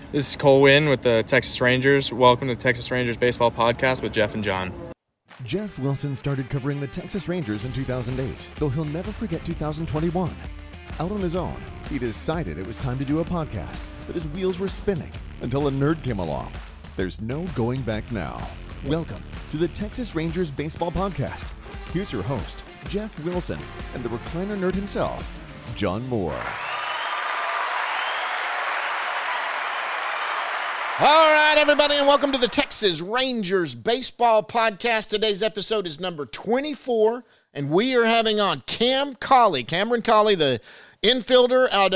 This is Cole Wynn with the Texas Rangers. Welcome to Texas Rangers Baseball Podcast with Jeff and John. Jeff Wilson started covering the Texas Rangers in 2008, though he'll never forget 2021. Out on his own, he decided it was time to do a podcast, but his wheels were spinning until a nerd came along. There's no going back now. Welcome to the Texas Rangers Baseball Podcast. Here's your host, Jeff Wilson, and the recliner nerd himself, John Moore. All right, everybody, and welcome to the Texas Rangers Baseball Podcast. Today's episode is number 24, and we are having on Cameron Cauley, the infielder out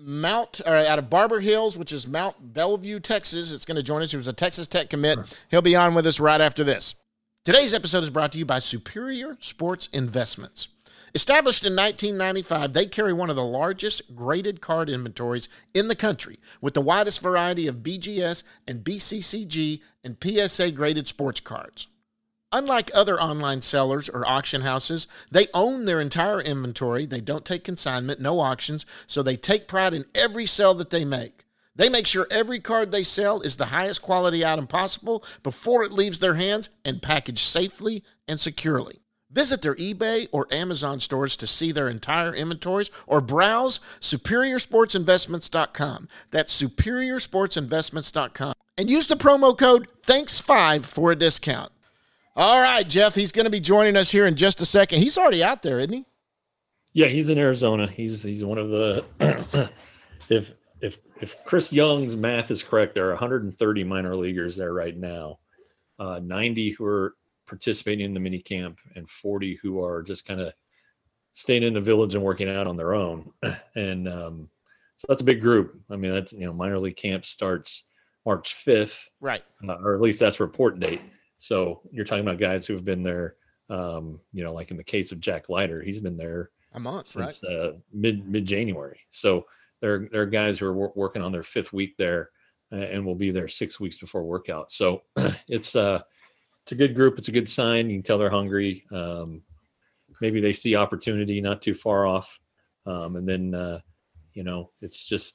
of Barber Hills, which is Mount Bellevue, Texas. It's going to join us. He was a Texas Tech commit. He'll be on with us right after this. Today's episode is brought to you by Superior Sports Investments. Established in 1995, they carry one of the largest graded card inventories in the country, with the widest variety of BGS and BCCG and PSA graded sports cards. Unlike other online sellers or auction houses, they own their entire inventory. They don't take consignment, no auctions, so they take pride in every sale that they make. They make sure every card they sell is the highest quality item possible before it leaves their hands and packaged safely and securely. Visit their eBay or Amazon stores to see their entire inventories or browse SuperiorSportsInvestments.com. That's SuperiorSportsInvestments.com. And use the promo code THANKS5 for a discount. All right, Jeff, he's going to be joining us here in just a second. He's already out there, isn't he? Yeah, he's in Arizona. He's one of the if Chris Young's math is correct, there are 130 minor leaguers there right now. 90 who are participating in the mini camp and 40 who are just kind of staying in the village and working out on their own. And so that's a big group. I mean, that's, minor league camp starts March 5th, right? Or at least that's report date. So you're talking about guys who have been there, like in the case of Jack Leiter, he's been there a month, since right? mid-January. So there are guys who are working on their 5th week there and will be there 6 weeks before workout. So it's a good group. It's a good sign. You can tell they're hungry. Maybe they see opportunity not too far off. And then, it's just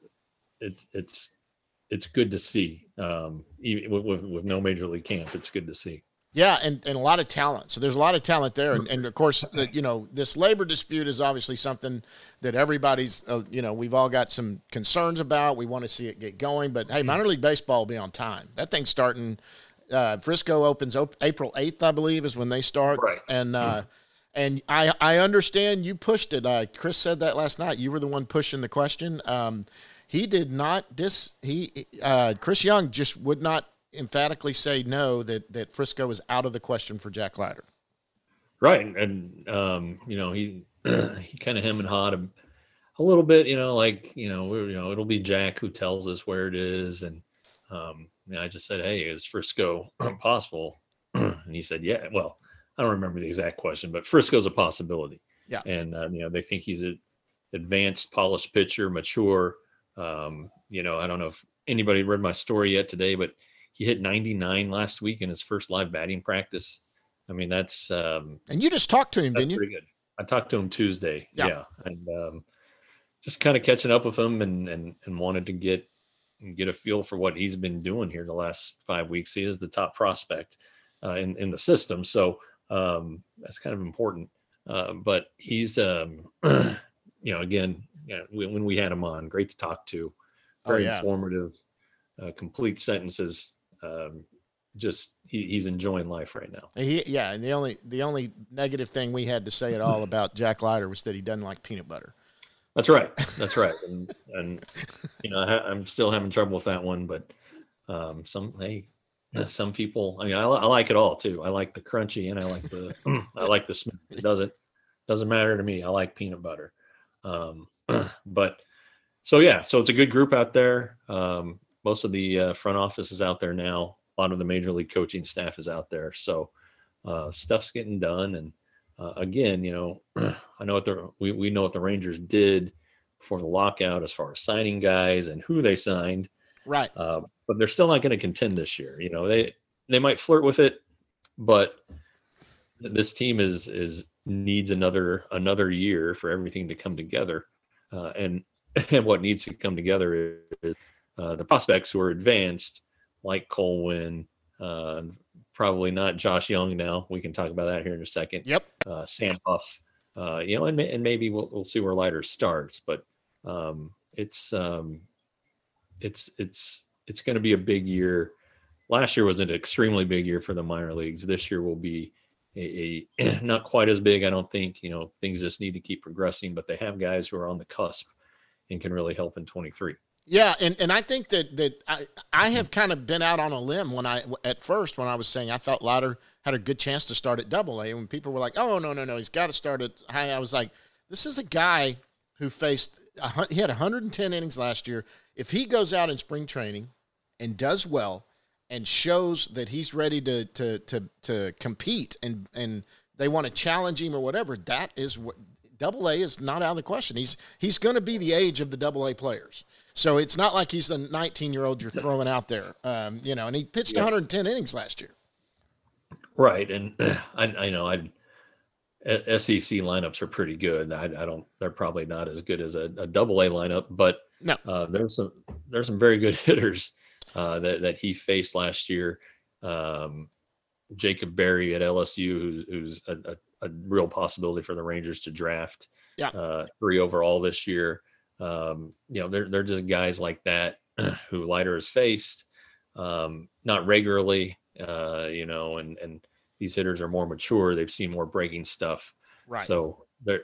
it's good to see. Even with no major league camp, it's good to see. Yeah, and a lot of talent. So there's a lot of talent there. And of course, this labor dispute is obviously something that everybody's, we've all got some concerns about. We want to see it get going. But, hey, minor league baseball will be on time. That thing's starting – Frisco opens April 8th, I believe, is when they start. Right. And and I understand you pushed it. Chris said that last night. You were the one pushing the question. He did not Chris Young just would not emphatically say no, that Frisco is out of the question for Jack Leiter. Right. And he kind of hem and hawed a little bit, it'll be Jack who tells us where it is. And I just said, hey, is Frisco possible? And he said, yeah. Well, I don't remember the exact question, but Frisco's a possibility. Yeah. And, they think he's an advanced, polished pitcher, mature. I don't know if anybody read my story yet today, but he hit 99 last week in his first live batting practice. I mean, that's and you just talked to him, didn't you? Pretty good. I talked to him Tuesday. Yeah. And just kind of catching up with him and wanted to get a feel for what he's been doing here the last 5 weeks. He is the top prospect in the system. So that's kind of important. But he's, when we had him on, great to talk to, very informative, complete sentences. He's enjoying life right now. And the only negative thing we had to say at all about Jack Leiter was that he doesn't like peanut butter. That's right. And I'm still having trouble with that one, but some people, I like it all too. I like the crunchy and I like the smooth. It doesn't matter to me. I like peanut butter. But so it's a good group out there. Most of the front office is out there now. A lot of the major league coaching staff is out there. So stuff's getting done. And again, I know we know what the Rangers did before the lockout as far as signing guys and who they signed. Right. But they're still not going to contend this year. They might flirt with it, but this team needs another year for everything to come together. And what needs to come together is the prospects who are advanced, like Colwyn, probably not Josh Young now. We can talk about that here in a second. Yep. Sam Huff, and maybe we'll see where Leiter starts, but it's going to be a big year. Last year was an extremely big year for the minor leagues. This year will be a not quite as big, I don't think. Things just need to keep progressing, but they have guys who are on the cusp and can really help in 23. Yeah, and I think that I have kind of been out on a limb when I was saying I thought Leiter had a good chance to start at Double-A. When people were like, "Oh, no, he's got to start at high," I was like, "This is a guy who he had 110 innings last year. If he goes out in spring training and does well and shows that he's ready to compete and they want to challenge him or whatever, that is what Double-A is not out of the question. He's going to be the age of the Double-A players." So it's not like he's the 19-year-old you're throwing out there, and he pitched 110 innings last year. Right, and I know SEC lineups are pretty good. They're probably not as good as a Double-A lineup, but no, there's some very good hitters that he faced last year. Jacob Berry at LSU, who's a real possibility for the Rangers to draft. Yeah, 3 overall this year. They're just guys like that who Leiter has faced, not regularly, and these hitters are more mature. They've seen more breaking stuff. right. So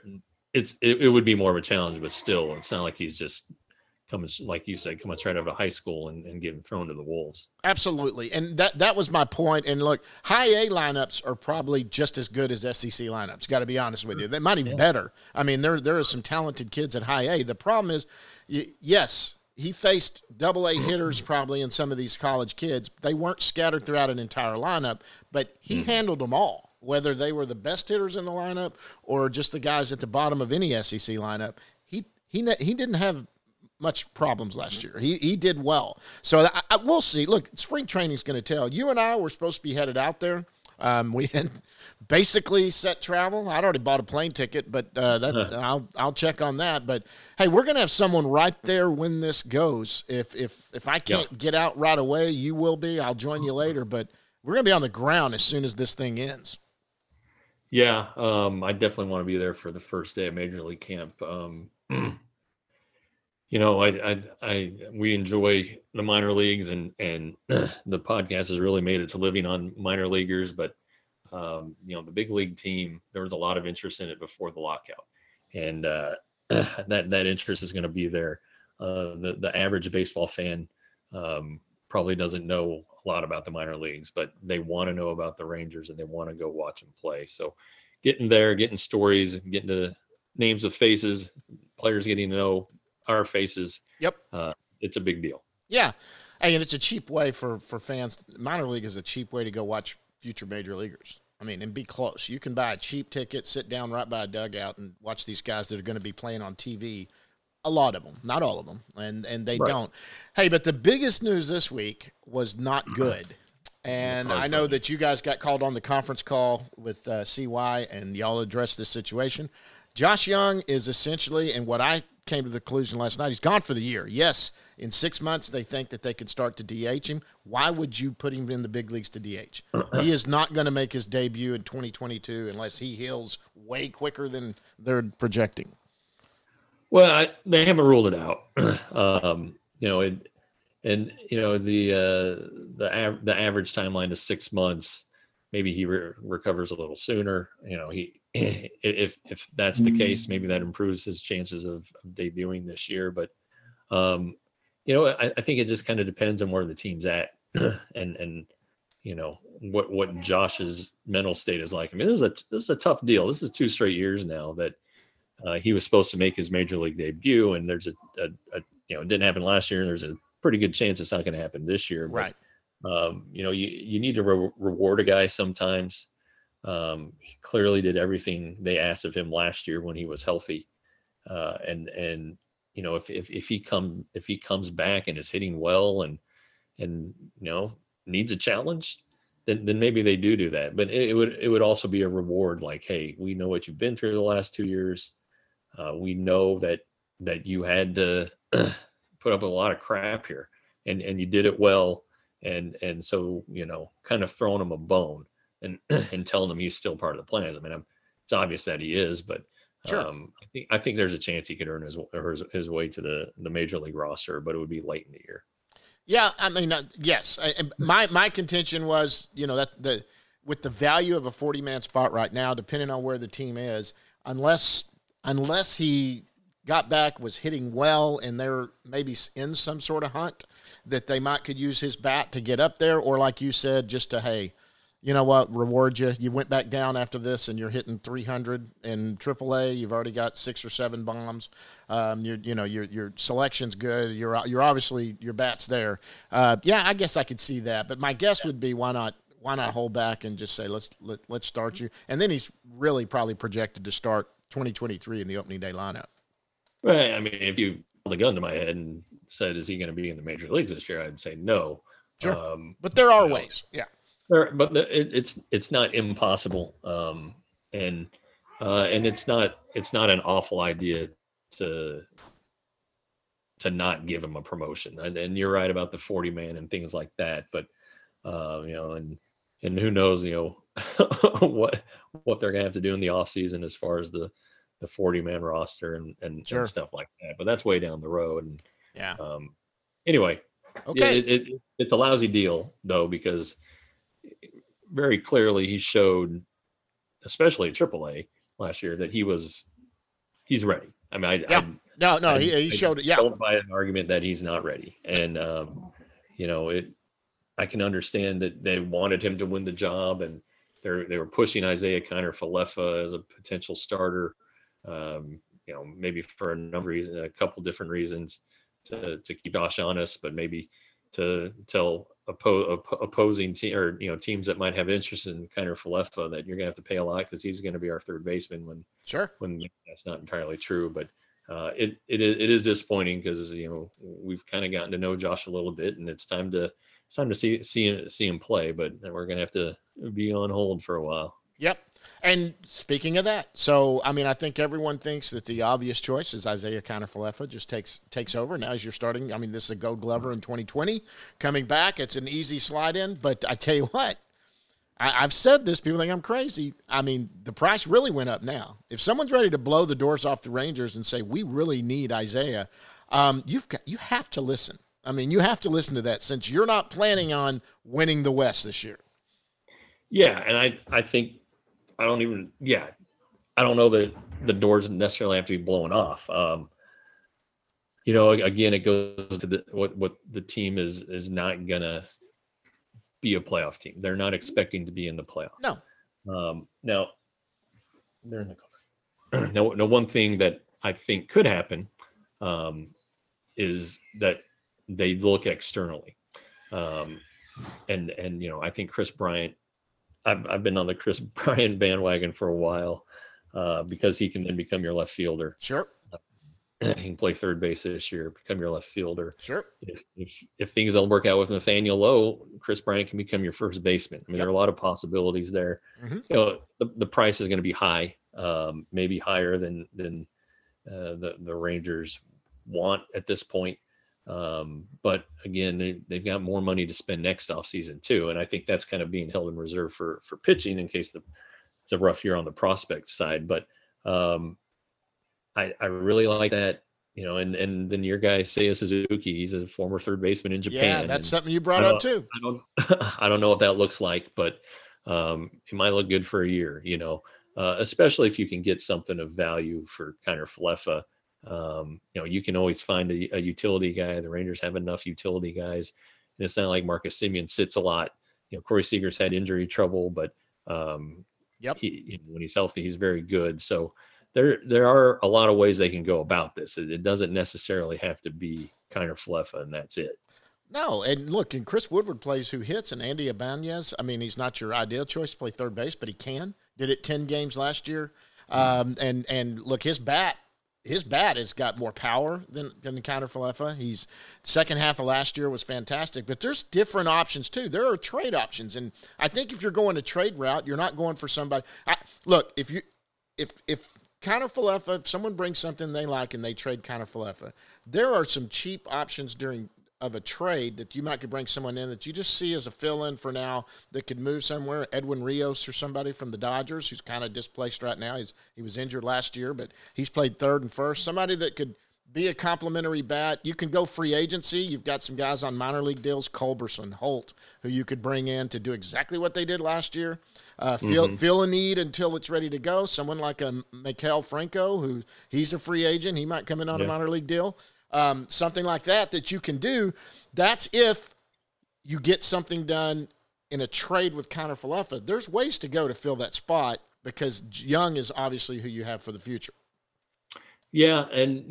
it would be more of a challenge, but still, it's not like he's just coming, like you said, coming straight out of high school and getting thrown to the wolves. Absolutely. And that was my point. And look, high A lineups are probably just as good as SEC lineups. Got to be honest with you. They might even better. I mean, there are some talented kids at high A. The problem is, yes, he faced Double-A hitters probably in some of these college kids. They weren't scattered throughout an entire lineup, but he handled them all, whether they were the best hitters in the lineup or just the guys at the bottom of any SEC lineup. He didn't have much problems last year. He did well. So we'll see. Look, spring training is going to tell. You and I were supposed to be headed out there. We had basically set travel. I'd already bought a plane ticket, but I'll check on that. But hey, we're going to have someone right there when this goes. If I can't get out right away, you will be. I'll join you later. But we're going to be on the ground as soon as this thing ends. Yeah, I definitely want to be there for the first day of Major League Camp. We enjoy the minor leagues, and the podcast has really made its living on minor leaguers. But the big league team, there was a lot of interest in it before the lockout, and that interest is going to be there. The average baseball fan probably doesn't know a lot about the minor leagues, but they want to know about the Rangers and they want to go watch them play. So getting there, getting stories, getting to names of faces, players getting to know our faces. Yep. It's a big deal. Yeah. Hey, and it's a cheap way for fans. Minor league is a cheap way to go watch future major leaguers. I mean, and be close. You can buy a cheap ticket, sit down right by a dugout and watch these guys that are going to be playing on TV. A lot of them, not all of them. And they don't. Hey, but the biggest news this week was not good. And I know that you guys got called on the conference call with CY and y'all addressed this situation. Josh Young is essentially, and what I came to the conclusion last night, he's gone for the year. Yes, in 6 months they think that they could start to DH him. Why would you put him in the big leagues to DH? He is not going to make his debut in 2022 unless he heals way quicker than they're projecting. Well, they haven't ruled it out. The average timeline is 6 months. Maybe he recovers a little sooner. If that's the case, maybe that improves his chances of debuting this year. But I think it just kind of depends on where the team's at, and what Josh's mental state is like. I mean, this is a tough deal. This is 2 straight years now that he was supposed to make his major league debut, and there's it didn't happen last year, and there's a pretty good chance it's not going to happen this year. Right. But, you need to reward a guy sometimes. He clearly did everything they asked of him last year when he was healthy. If he comes back and is hitting well and needs a challenge, then maybe they do that. But it would also be a reward. Like, hey, we know what you've been through the last 2 years. We know that you had to put up a lot of crap here. and you did it well, and so kind of throwing him a bone and and telling him he's still part of the plans. I mean, it's obvious that he is, but Sure. I think there's a chance he could earn his way to the major league roster, but it would be late in the year. Yeah, I mean, yes. My contention was, that with the value of a 40-man spot right now, depending on where the team is, unless he got back, was hitting well, and they're maybe in some sort of hunt that they could use his bat to get up there, or like you said, just to, hey, you know what, reward you. You went back down after this, and you're hitting 300 in AAA. You've already got 6 or 7 bombs. Your selection's good. You're obviously, your bat's there. Yeah, I guess I could see that. But my guess would be, why not hold back and just say let's start you. And then he's really probably projected to start 2023 in the opening day lineup. Right. I mean, if you held a gun to my head and said, "Is he going to be in the major leagues this year?" I'd say no. Sure. But there are ways. Yeah. But it's not impossible, and it's not an awful idea to not give him a promotion. And you're right about the 40-man and things like that. But and who knows, what they're gonna have to do in the off season as far as the 40-man roster and Sure. and stuff like that. But that's way down the road. And Yeah. anyway, Okay. it's a lousy deal though, because very clearly he showed, especially at AAA last year, that he's ready. I mean, He showed it. Yeah. don't buy an argument that he's not ready. And I can understand that they wanted him to win the job, and they were pushing Isaiah Kiner-Falefa as a potential starter. Maybe for a couple different reasons, to keep Josh honest, but maybe to tell opposing team, or teams that might have interest in Kiner-Falefa that you're gonna have to pay a lot because he's going to be our third baseman, when that's not entirely true. But it is disappointing because we've kind of gotten to know Josh a little bit, and it's time to see him play. But we're gonna have to be on hold for a while. Yep. And speaking of that, so, I mean, I think everyone thinks that the obvious choice is Isaiah Kiner-Falefa just takes over. Now as you're starting, I mean, this is a Gold Glover in 2020 coming back. It's an easy slide in, but I tell you what, I've said this, people think I'm crazy. I mean, the price really went up now. If someone's ready to blow the doors off the Rangers and say, we really need Isaiah, you have to listen. I mean, you have to listen to that, since you're not planning on winning the West this year. Yeah. And I think, I don't know that the doors necessarily have to be blown off. Again, it goes to what the team is not gonna be a playoff team. They're not expecting to be in the playoffs. No. Now they're in the cover. No, one thing that I think could happen is that they look externally, and I think Chris Bryant. I've been on the Chris Bryant bandwagon for a while, because he can then become your left fielder. Sure. He can play third base this year, become your left fielder. Sure. If things don't work out with Nathaniel Lowe, Chris Bryant can become your first baseman. I mean, There are a lot of possibilities there. Mm-hmm. The price is going to be high, maybe higher than the Rangers want at this point. But again, they've got more money to spend next offseason too. And I think that's kind of being held in reserve for pitching in case it's a rough year on the prospect side. But I really like that, and then your guy, Seiya Suzuki, he's a former third baseman in Japan. Yeah, that's something you brought up too. I don't know what that looks like, but it might look good for a year, especially if you can get something of value for Kiner-Falefa. You can always find a utility guy. The Rangers have enough utility guys, and it's not like Marcus Semien sits a lot. Corey Seager's had injury trouble, but when he's healthy, he's very good. So there are a lot of ways they can go about this. It doesn't necessarily have to be Kiner-Falefa, and that's it. No, and look, and Chris Woodward plays who hits, and Andy Ibanez, I mean, he's not your ideal choice to play third base, but he can. Did it 10 games last year. And look, his bat has got more power than the Kiner-Falefa. He's second half of last year was fantastic, but there's different options too. There are trade options, and I think if you're going a trade route, you're not going for somebody. Look, if Kiner-Falefa, if someone brings something they like and they trade Kiner-Falefa, there are some cheap options during of a trade that you might could bring someone in that you just see as a fill-in for now that could move somewhere. Edwin Rios or somebody from the Dodgers who's kind of displaced right now. He was injured last year, but he's played third and first. Somebody that could be a complimentary bat. You can go free agency. You've got some guys on minor league deals, Culberson, Holt, who you could bring in to do exactly what they did last year. Feel a need until it's ready to go. Someone like a Maikel Franco, who he's a free agent. He might come in on a minor league deal. Something like that you can do. That's if you get something done in a trade with Connor Falefa. There's ways to go to fill that spot because Young is obviously who you have for the future. Yeah, and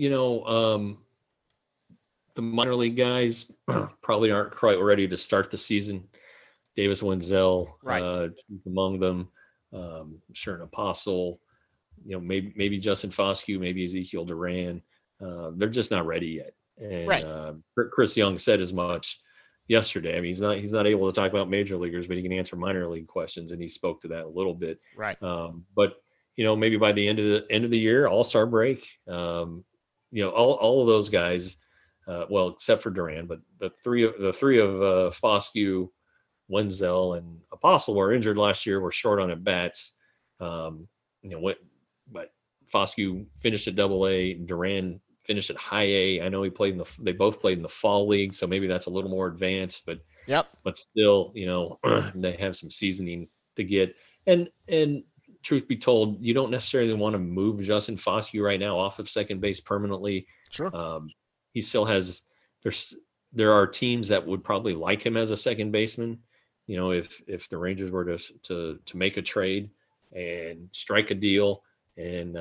the minor league guys probably aren't quite ready to start the season. Davis Wenzel, right, among them. Sure, an Apostle. Maybe Justin Foscue, maybe Ezekiel Duran. They're just not ready yet. And right. Chris Young said as much yesterday. I mean, he's not able to talk about major leaguers, but he can answer minor league questions, and he spoke to that a little bit. Right. But maybe by the end of the year, All-Star break, all of those guys, well, except for Duran, but the three of Foscue, Wenzel, and Apostle were injured last year. Were short on at bats. But Foscue finished at Double-A. Duran finished at High A. I know they both played in the fall league, so maybe that's a little more advanced. But but still, they have some seasoning to get. And truth be told, you don't necessarily want to move Justin Foscue right now off of second base permanently. Sure. He still has. There are teams that would probably like him as a second baseman. If the Rangers were to make a trade and strike a deal, and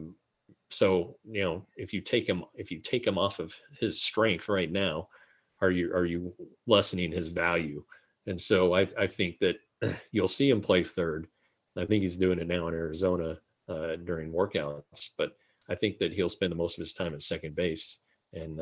so if you take him off of his strength right now, are you lessening his value? And so I think that you'll see him play third. I think he's doing it now in Arizona during workouts, but I think that he'll spend the most of his time at second base. And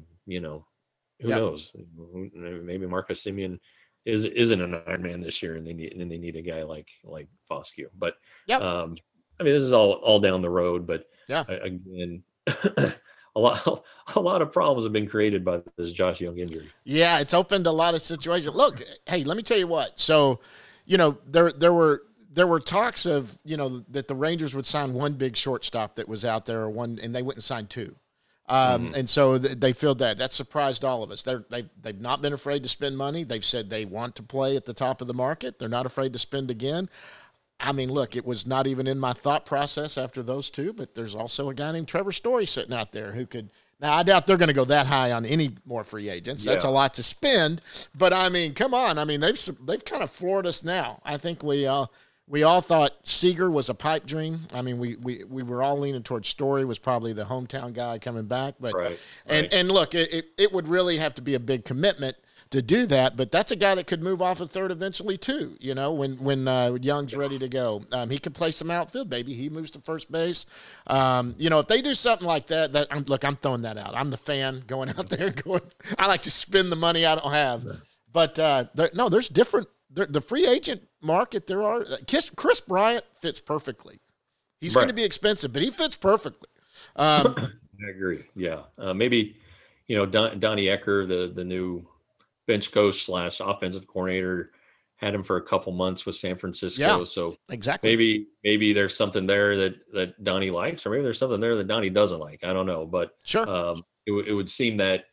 who knows? Maybe Marcus Semien isn't an Iron Man this year, and they need a guy like Foscue. But this is all down the road. But again, a lot of problems have been created by this Josh Young injury. Yeah, it's opened a lot of situations. Look, hey, let me tell you what. So, there were talks of, that the Rangers would sign one big shortstop that was out there, and they wouldn't sign two. And so they filled that. That surprised all of us. They've not been afraid to spend money. They've said they want to play at the top of the market. They're not afraid to spend again. I mean, look, it was not even in my thought process after those two, but there's also a guy named Trevor Story sitting out there who could. Now, I doubt they're going to go that high on any more free agents. That's a lot to spend. But, I mean, come on. I mean, they've kind of floored us now. I think we all thought Seager was a pipe dream. I mean, we were all leaning towards Story was probably the hometown guy coming back. But right. And look, it would really have to be a big commitment to do that. But that's a guy that could move off of third eventually too. When Young's ready to go, he could play some outfield. Maybe he moves to first base. If they do something like that, I'm throwing that out. I'm the fan going out there going. I like to spend the money I don't have. But there's different. The free agent market, there are Chris Bryant fits perfectly. He's going to be expensive, but he fits perfectly. I agree. Yeah, maybe Donnie Ecker, the new bench coach / offensive coordinator, had him for a couple months with San Francisco. Yeah, so exactly. Maybe there's something there that Donnie likes, or maybe there's something there that Donnie doesn't like. I don't know, but sure. It would seem that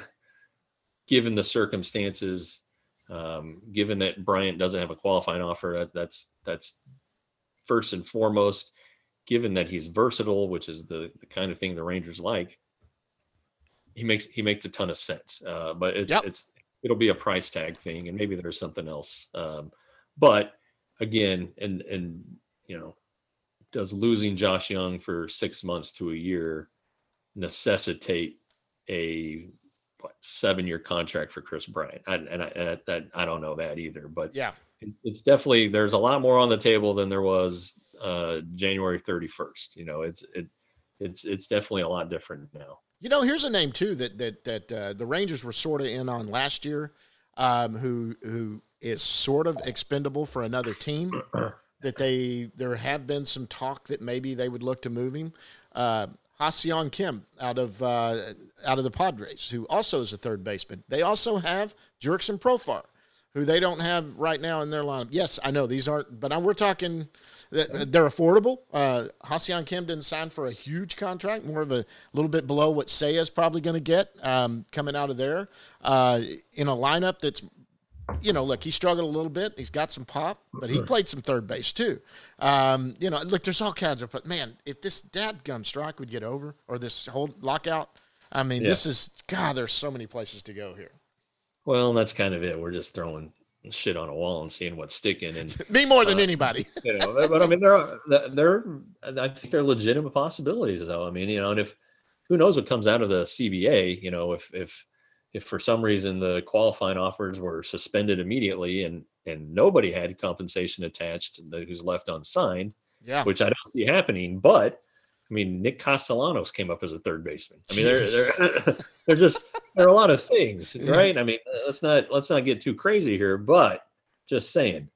given the circumstances. Given that Bryant doesn't have a qualifying offer, that's first and foremost. Given that he's versatile, which is the kind of thing the Rangers like, he makes a ton of sense. But it'll be a price tag thing, and maybe there's something else. But again, and does losing Josh Young for 6 months to a year necessitate a 7-year contract for Chris Bryant? I don't know that either, but it's definitely, there's a lot more on the table than there was January 31st. It's definitely a lot different now. Here's a name too that the Rangers were sort of in on last year, who is sort of expendable for another team. That there have been some talk that maybe they would look to move him. Ha-Seong Kim out of the Padres, who also is a third baseman. They also have Jurickson Profar, who they don't have right now in their lineup. Yes, I know these aren't, but we're talking they're affordable. Ha-Seong Kim didn't sign for a huge contract, more of a little bit below what Seiya is probably going to get coming out of there in a lineup that's, look, he struggled a little bit. He's got some pop, but he played some third base too. Look, there's all kinds of, but man, if this dadgum strike would get over, or this whole lockout, I mean, this is, God, there's so many places to go here. Well, that's kind of it. We're just throwing shit on a wall and seeing what's sticking. And me more than anybody. But I mean, I think they're legitimate possibilities, though. I mean, and if who knows what comes out of the CBA, if for some reason the qualifying offers were suspended immediately and nobody had compensation attached who's left unsigned, which I don't see happening. But I mean, Nick Castellanos came up as a third baseman. I mean, there are a lot of things, right? I mean, let's not get too crazy here, but just saying,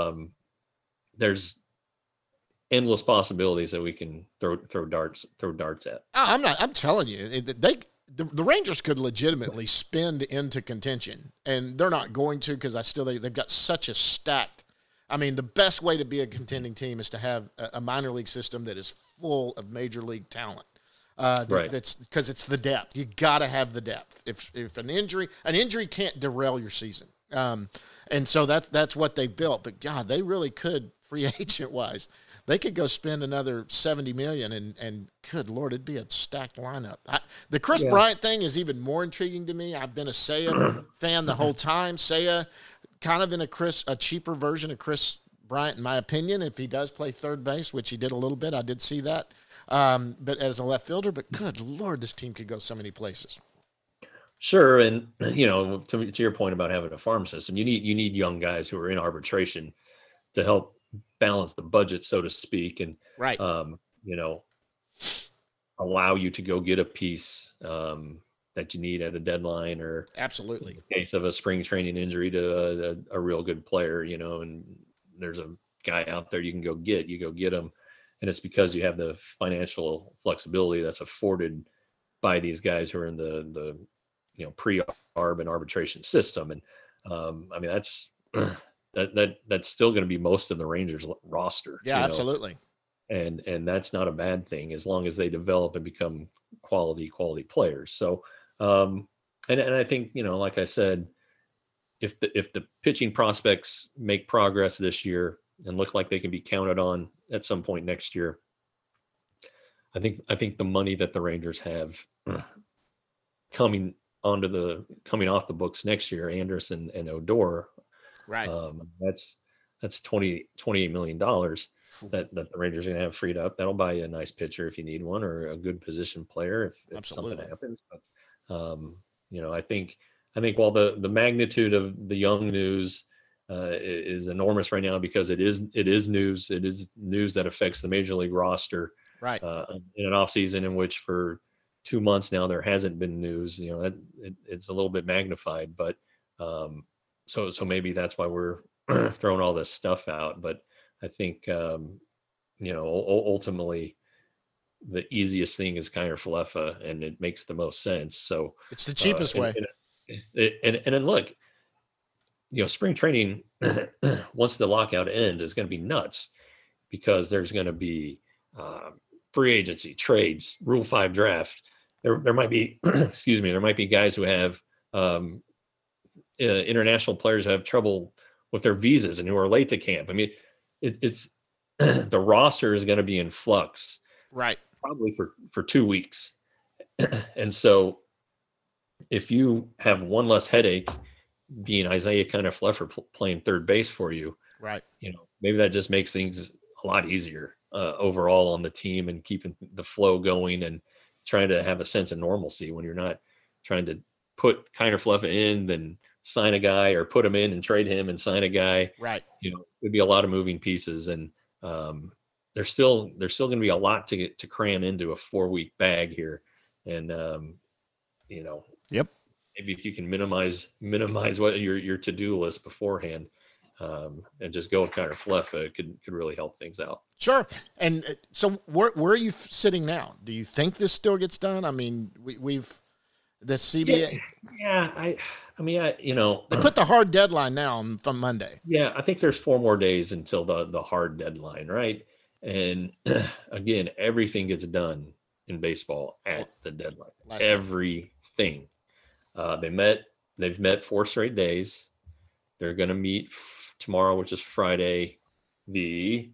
there's endless possibilities that we can throw darts at. I'm telling you, the Rangers could legitimately spin into contention, and they're not going to, because they've got such a stacked. I mean, the best way to be a contending team is to have a minor league system that is full of major league talent. Right. That's because it's the depth. You got to have the depth. If an injury can't derail your season. And so that's what they built. But God, they really could, free agent wise, they could go spend another $70 million, and good Lord, it'd be a stacked lineup. The Chris Bryant thing is even more intriguing to me. I've been a Seiya fan the whole time. Seiya, kind of in a cheaper version of Chris Bryant, in my opinion, if he does play third base, which he did a little bit. I did see that. But as a left fielder, but good Lord, this team could go so many places. Sure. And, to your point about having a farm system, you need young guys who are in arbitration to help balance the budget, so to speak. And, right. Allow you to go get a piece that you need at a deadline, or absolutely in the case of a spring training injury to a real good player, and there's a guy out there you go get him. And it's because you have the financial flexibility that's afforded by these guys who are in the pre-arb and arbitration system. And I mean, that's still going to be most of the Rangers roster. Yeah, absolutely. And that's not a bad thing, as long as they develop and become quality players. So, and I think, like I said, if the pitching prospects make progress this year and look like they can be counted on at some point next year, I think the money that the Rangers have coming off the books next year, Anderson and Odor, right? That's $28 million that the Rangers are going to have freed up. That'll buy you a nice pitcher if you need one, or a good position player if something happens. But I think while the magnitude of the Young news is enormous right now, because it is news that affects the major league roster, right? In an off season in which for 2 months now there hasn't been news. It's a little bit magnified, but so maybe that's why we're throwing all this stuff out. But I think ultimately the easiest thing is Kiner Falefa, and it makes the most sense. So it's the cheapest way. And then look, spring training, once the lockout ends, is going to be nuts, because there's going to be free agency, trades, Rule 5 draft. There might be, there might be guys who have international players who have trouble with their visas and who are late to camp. I mean, it's the roster is going to be in flux, right? Probably for 2 weeks. And so if you have one less headache being Isaiah Kiner-Falefa playing third base for you, right? Maybe that just makes things a lot easier overall on the team, and keeping the flow going and trying to have a sense of normalcy when you're not trying to put Kiner-Falefa in, then sign a guy, or put him in and trade him and sign a guy. Right. It'd be a lot of moving pieces, and there's still going to be a lot to get to cram into a 4-week bag here. And yep. Maybe if you can minimize what your to-do list beforehand, and just go with Connor Flefa could really help things out. Sure. And so where are you sitting now? Do you think this still gets done? I mean, we've the CBA. Yeah. I mean, they put the hard deadline now from Monday. Yeah, I think there's 4 more days until the hard deadline, right? And again, everything gets done in baseball at the deadline. Everything. They've met 4 straight days. They're going to meet tomorrow, which is Friday, the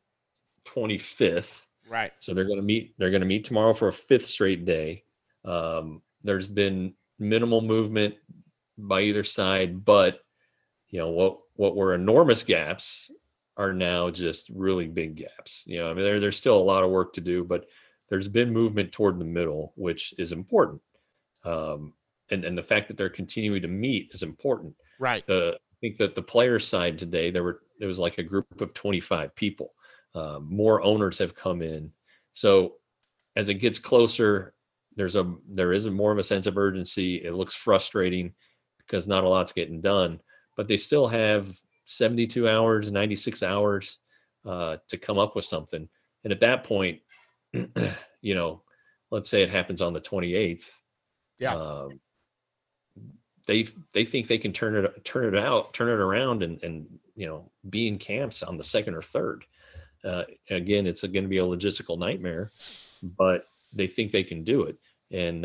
25th. Right. So they're going to meet tomorrow for a 5th straight day. There's been minimal movement by either side, but what were enormous gaps are now just really big gaps. I mean, there's still a lot of work to do, but there's been movement toward the middle, which is important. And the fact that they're continuing to meet is important. Right. I think that the players' side today, there was like a group of 25 people. More owners have come in. So as it gets closer, there is more of a sense of urgency. It looks frustrating because not a lot's getting done, but they still have 72 hours, 96 hours to come up with something. And at that point, let's say it happens on the 28th. Yeah. They think they can turn it around and be in camps on the 2nd or 3rd. Again, it's going to be a logistical nightmare, but they think they can do it. And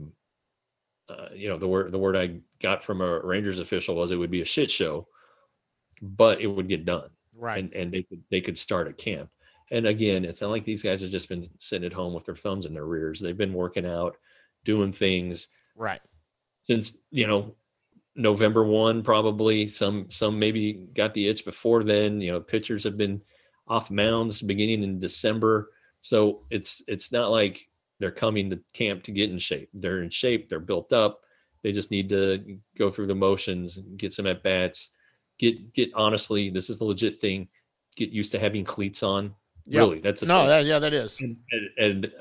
the word I got from a Rangers official was it would be a shit show, but it would get done. Right. And they could start a camp. And again, it's not like these guys have just been sitting at home with their thumbs in their rears. They've been working out, doing things. Right. Since, November 1, probably some maybe got the itch before then. Pitchers have been off mounds beginning in December. So it's not like they're coming to camp to get in shape. They're in shape. They're built up. They just need to go through the motions, get some at bats, get honestly, this is the legit thing. Get used to having cleats on. Yep. Really, that's that is. And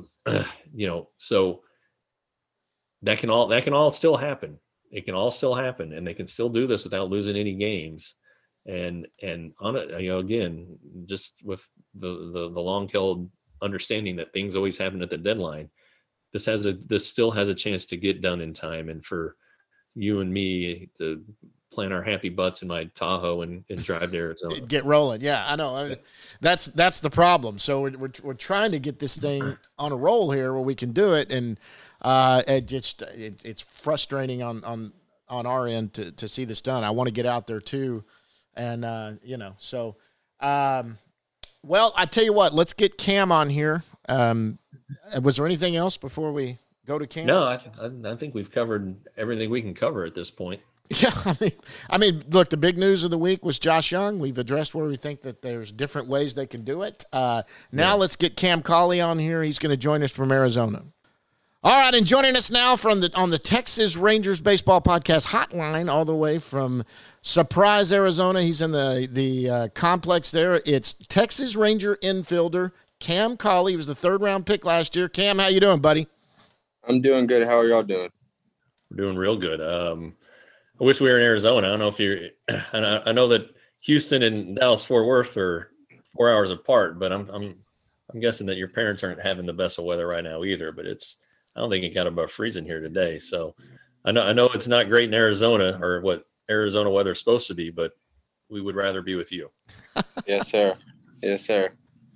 so that can all still happen. It can all still happen, and they can still do this without losing any games. And on it, again, just with the long-held understanding that things always happen at the deadline, this still has a chance to get done in time, and for you and me to plant our happy butts in my Tahoe and drive to Arizona. Get rolling. Yeah, I know. I mean, that's the problem. So we're trying to get this thing on a roll here where we can do it, and it's frustrating on our end to see this done. I want to get out there too, and so. Well, I tell you what, let's get Cam on here. Was there anything else before we go to Cam? No, I think we've covered everything we can cover at this point. Yeah, I mean, look, the big news of the week was Josh Young. We've addressed where we think that there's different ways they can do it. Now let's get Cam Cauley on here. He's going to join us from Arizona. All right, and joining us now on the Texas Rangers Baseball Podcast hotline, all the way from Surprise, Arizona. He's in the complex there. It's Texas Ranger infielder Cam Cauley. He was the 3rd-round pick last year. Cam, how you doing, buddy? I'm doing good. How are y'all doing? We're doing real good. I wish we were in Arizona. I don't know if you're. I know that Houston and Dallas-Fort Worth are 4 hours apart, but I'm guessing that your parents aren't having the best of weather right now either. But I don't think it got above freezing here today. So I know it's not great in Arizona, or what Arizona weather is supposed to be, but we would rather be with you. Yes, sir. Yes, sir.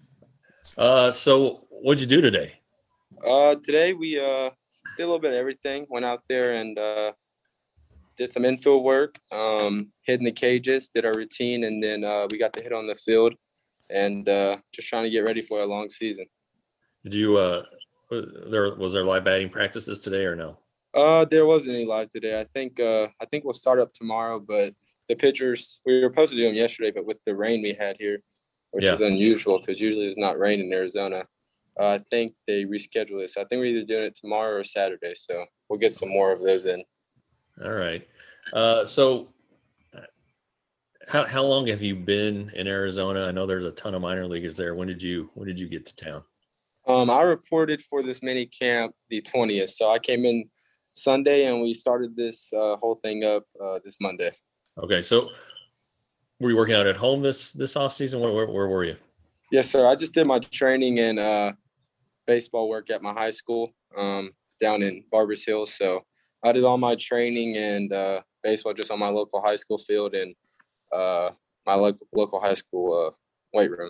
So what'd you do today? Today we did a little bit of everything. Went out there and did some infield work, hitting the cages, did our routine, and then we got to hit on the field, and just trying to get ready for a long season. Did you was there live batting practices today or no? There wasn't any live today. I think we'll start up tomorrow, but the pitchers, we were supposed to do them yesterday, but with the rain we had here, which is unusual because usually it's not rain in Arizona, I think they rescheduled it. So I think we're either doing it tomorrow or Saturday. So we'll get some more of those in. All right. So how long have you been in Arizona? I know there's a ton of minor leaguers there. When did you get to town? I reported for this mini camp the 20th. So I came in Sunday and we started this whole thing up this Monday. Okay. So were you working out at home this off season? Where were you? Yes, sir. I just did my training and baseball work at my high school down in Barbers Hill. So I did all my training and baseball just on my local high school field and my local high school weight room.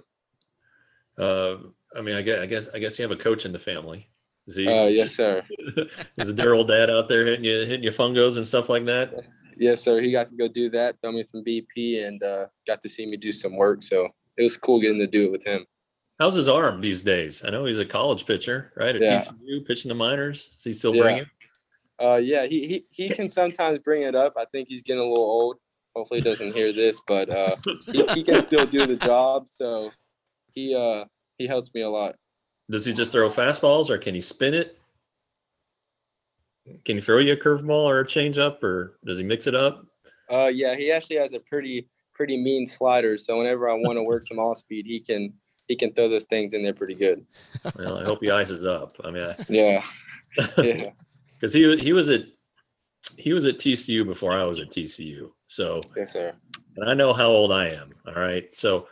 I mean, I guess you have a coach in the family. Is he? Yes, sir. Is a dear old dad out there hitting you fungos and stuff like that? Yes, sir. He got to go do that, throw me some BP, and got to see me do some work. So it was cool getting to do it with him. How's his arm these days? I know he's a college pitcher, right? At TCU, pitching the minors. Does he still bring it? Yeah, he can sometimes bring it up. I think he's getting a little old. Hopefully he doesn't hear this, but he can still do the job. So he helps me a lot. Does he just throw fastballs, or can he spin it? Can he throw you a curveball or a changeup, or does he mix it up? Yeah, he actually has a pretty mean slider. So whenever I want to work some off speed, he can throw those things in there pretty good. Well, I hope he ices up. I mean, yeah, because he was at TCU before I was at TCU. So yes, sir. And I know how old I am. All right, so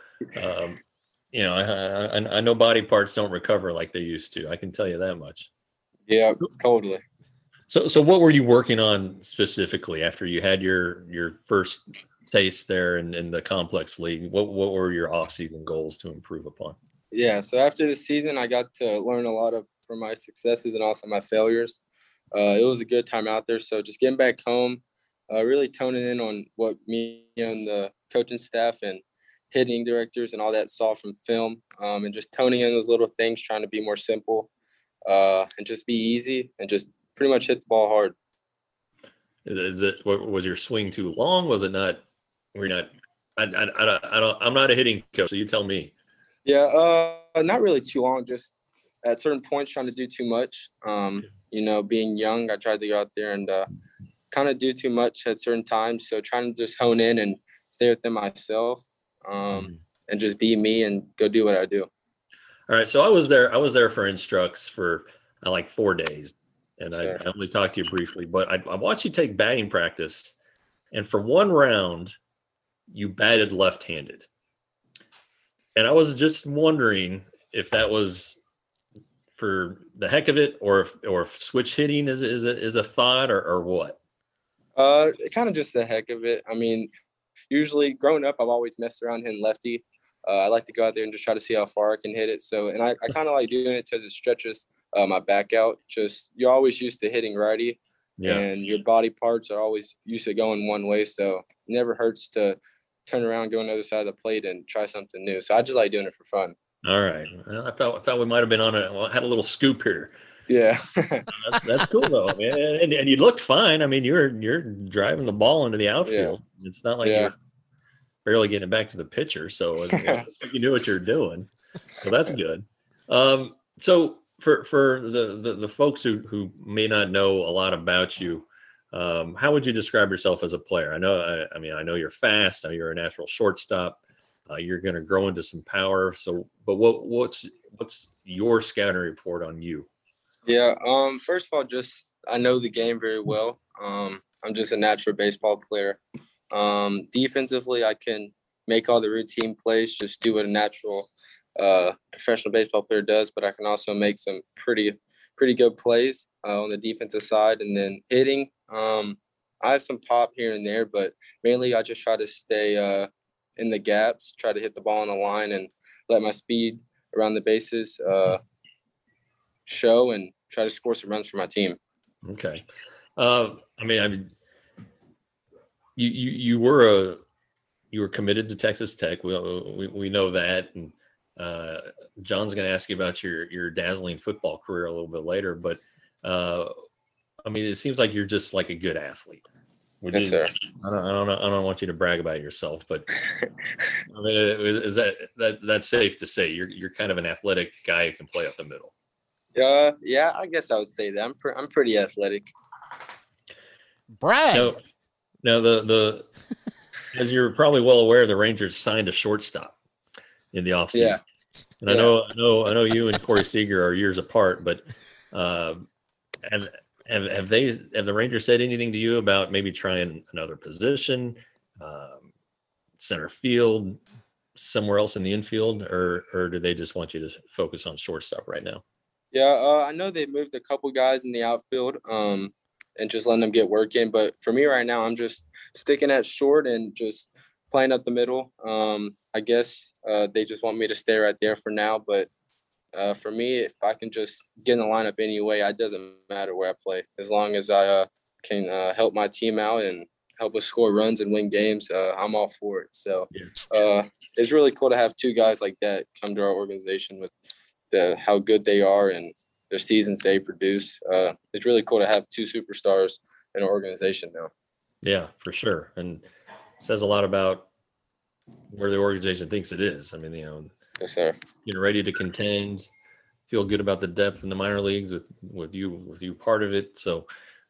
I know body parts don't recover like they used to. I can tell you that much. Yeah, totally. So what were you working on specifically after you had your first taste there in the complex league? What were your off-season goals to improve upon? Yeah, so after the season, I got to learn a lot from my successes and also my failures. It was a good time out there. So just getting back home, really toning in on what me and the coaching staff and hitting directors and all that saw from film, and just toning in those little things, trying to be more simple and just be easy and just pretty much hit the ball hard. Was your swing too long? Was it not? We're not. I'm not a hitting coach, so you tell me. Yeah, not really too long. Just at certain points, trying to do too much. Being young, I tried to go out there and kind of do too much at certain times. So trying to just hone in and stay within myself, and just be me and go do what I do. All right. So I was there for instructs for like 4 days. And I only talked to you briefly, but I watched you take batting practice, and for one round, you batted left-handed. And I was just wondering if that was for the heck of it, or if switch hitting is a thought, or what. Kind of just the heck of it. I mean, usually growing up, I've always messed around hitting lefty. I like to go out there and just try to see how far I can hit it. So, and I kind of like doing it because it stretches my back out. Just you're always used to hitting righty, and your body parts are always used to going one way. So it never hurts to turn around, go on the other side of the plate, and try something new. So I just like doing it for fun. All right. Well, I thought we might have been had a little scoop here. Yeah. that's cool though, man. And you looked fine. I mean, you're driving the ball into the outfield. Yeah. It's not like you're barely getting it back to the pitcher. So you knew what you're doing. So that's good. So for the folks who may not know a lot about you, how would you describe yourself as a player? I know you're fast. I know you're a natural shortstop. You're going to grow into some power. So, but what's your scouting report on you? Yeah. First of all, just I know the game very well. I'm just a natural baseball player. Defensively, I can make all the routine plays, just do what a natural professional baseball player does. But I can also make some pretty good plays on the defensive side. And then hitting, I have some pop here and there, but mainly I just try to stay in the gaps, try to hit the ball on the line, and let my speed around the bases show, and try to score some runs for my team. Okay. You were committed to Texas Tech. We know that, and John's going to ask you about your dazzling football career a little bit later. But it seems like you're just like a good athlete. Yes, sir. I don't want you to brag about yourself, but is that's safe to say you're kind of an athletic guy who can play up the middle? Yeah, I guess I would say that. I'm pretty athletic. Brag. Now the as you're probably well aware, the Rangers signed a shortstop in the offseason. Yeah. And I know you and Corey Seager are years apart, but have the Rangers said anything to you about maybe trying another position, center field, somewhere else in the infield, or do they just want you to focus on shortstop right now? Yeah, I know they moved a couple guys in the outfield, and just letting them get work in. But for me right now, I'm just sticking at short and just playing up the middle. I guess they just want me to stay right there for now. But for me, if I can just get in the lineup anyway, it doesn't matter where I play. As long as I can help my team out and help us score runs and win games, I'm all for it. So it's really cool to have two guys like that come to our organization with how good they are and the seasons they produce. It's really cool to have two superstars in our organization now. Yeah, for sure. And it says a lot about where the organization thinks it is. I mean, Yes, sir. Getting ready to contend, feel good about the depth in the minor leagues with you part of it. So,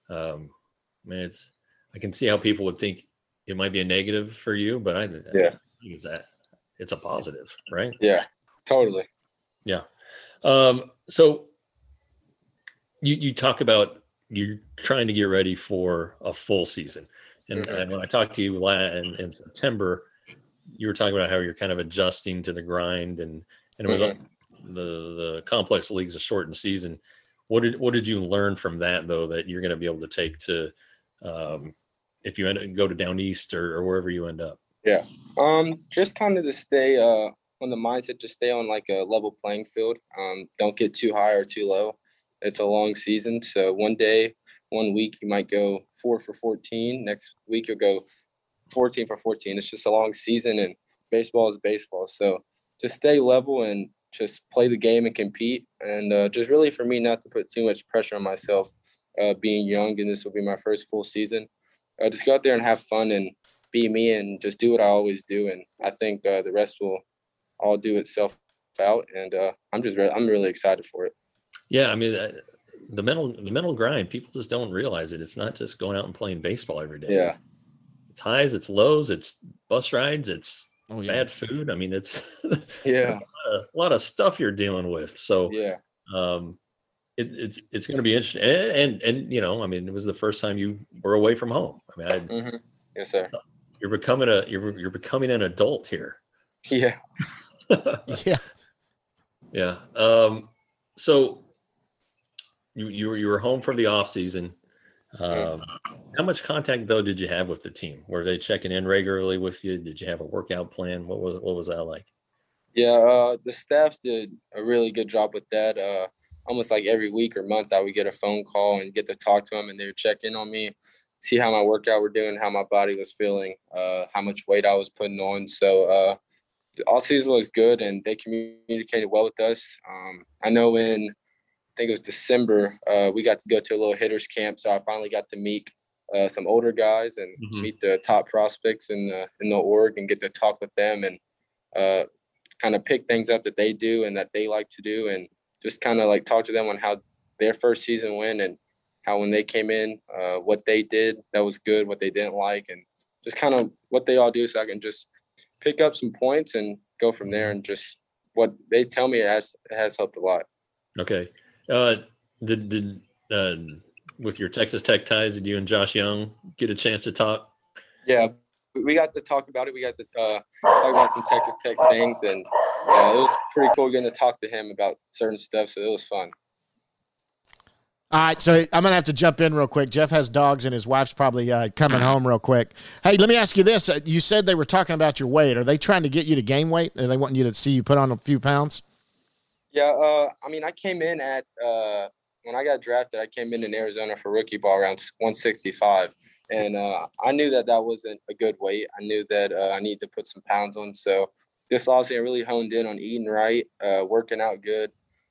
man, I can see how people would think it might be a negative for you, but I think it's a positive, right? Yeah, totally. Yeah. So you talk about you're trying to get ready for a full season. And when I talked to you in September, you were talking about how you're kind of adjusting to the grind and it was the complex leagues, a shortened season. What did you learn from that though, that you're going to be able to take to, if you go to down east or wherever you end up? Yeah. Just kind of to stay, on the mindset, just stay on like a level playing field. Don't get too high or too low. It's a long season. So one week you might go 4 for 14. Next week you'll go 14 for 14. It's just a long season and baseball is baseball. So just stay level and just play the game and compete. And just really for me, not to put too much pressure on myself, being young, and this will be my first full season. Just go out there and have fun and be me and just do what I always do. And I think the rest will all do itself out. And I'm really excited for it. Yeah. I mean, the mental grind, people just don't realize it. It's not just going out and playing baseball every day. Yeah. It's highs, it's lows, it's bus rides, it's bad food. I mean, it's a lot of stuff you're dealing with. So it's going to be interesting. And I mean, it was the first time you were away from home. I mean, yes, sir. You're becoming an adult here. Yeah. Yeah. Yeah. So you were home for the off season. How much contact though did you have with the team? Were they checking in regularly with you? Did you have a workout plan? What was that like? Yeah, the staff did a really good job with that. Almost like every week or month, I would get a phone call and get to talk to them, and they would check in on me, see how my workout were doing, how my body was feeling, how much weight I was putting on. So the all season was good, and they communicated well with us. I know I think it was December, we got to go to a little hitters camp. So I finally got to meet some older guys and meet the top prospects in the org and get to talk with them and kind of pick things up that they do and that they like to do, and just kind of like talk to them on how their first season went and how when they came in, what they did that was good, what they didn't like, and just kind of what they all do, so I can just pick up some points and go from there. And just what they tell me has helped a lot. Okay. Did with your Texas Tech ties, did you and Josh Young get a chance to talk? Yeah, we got to talk about it. We got to talk about some Texas Tech things, and it was pretty cool getting to talk to him about certain stuff. So it was fun. All right, so I'm going to have to jump in real quick. Jeff has dogs, and his wife's probably coming home real quick. Hey, let me ask you this. You said they were talking about your weight. Are they trying to get you to gain weight? Are they wanting you to see you put on a few pounds? Yeah, I mean, I came in at when I got drafted, I came in Arizona for rookie ball around 165. And I knew that wasn't a good weight. I knew that I needed to put some pounds on. So this offseason, I really honed in on eating right, working out good,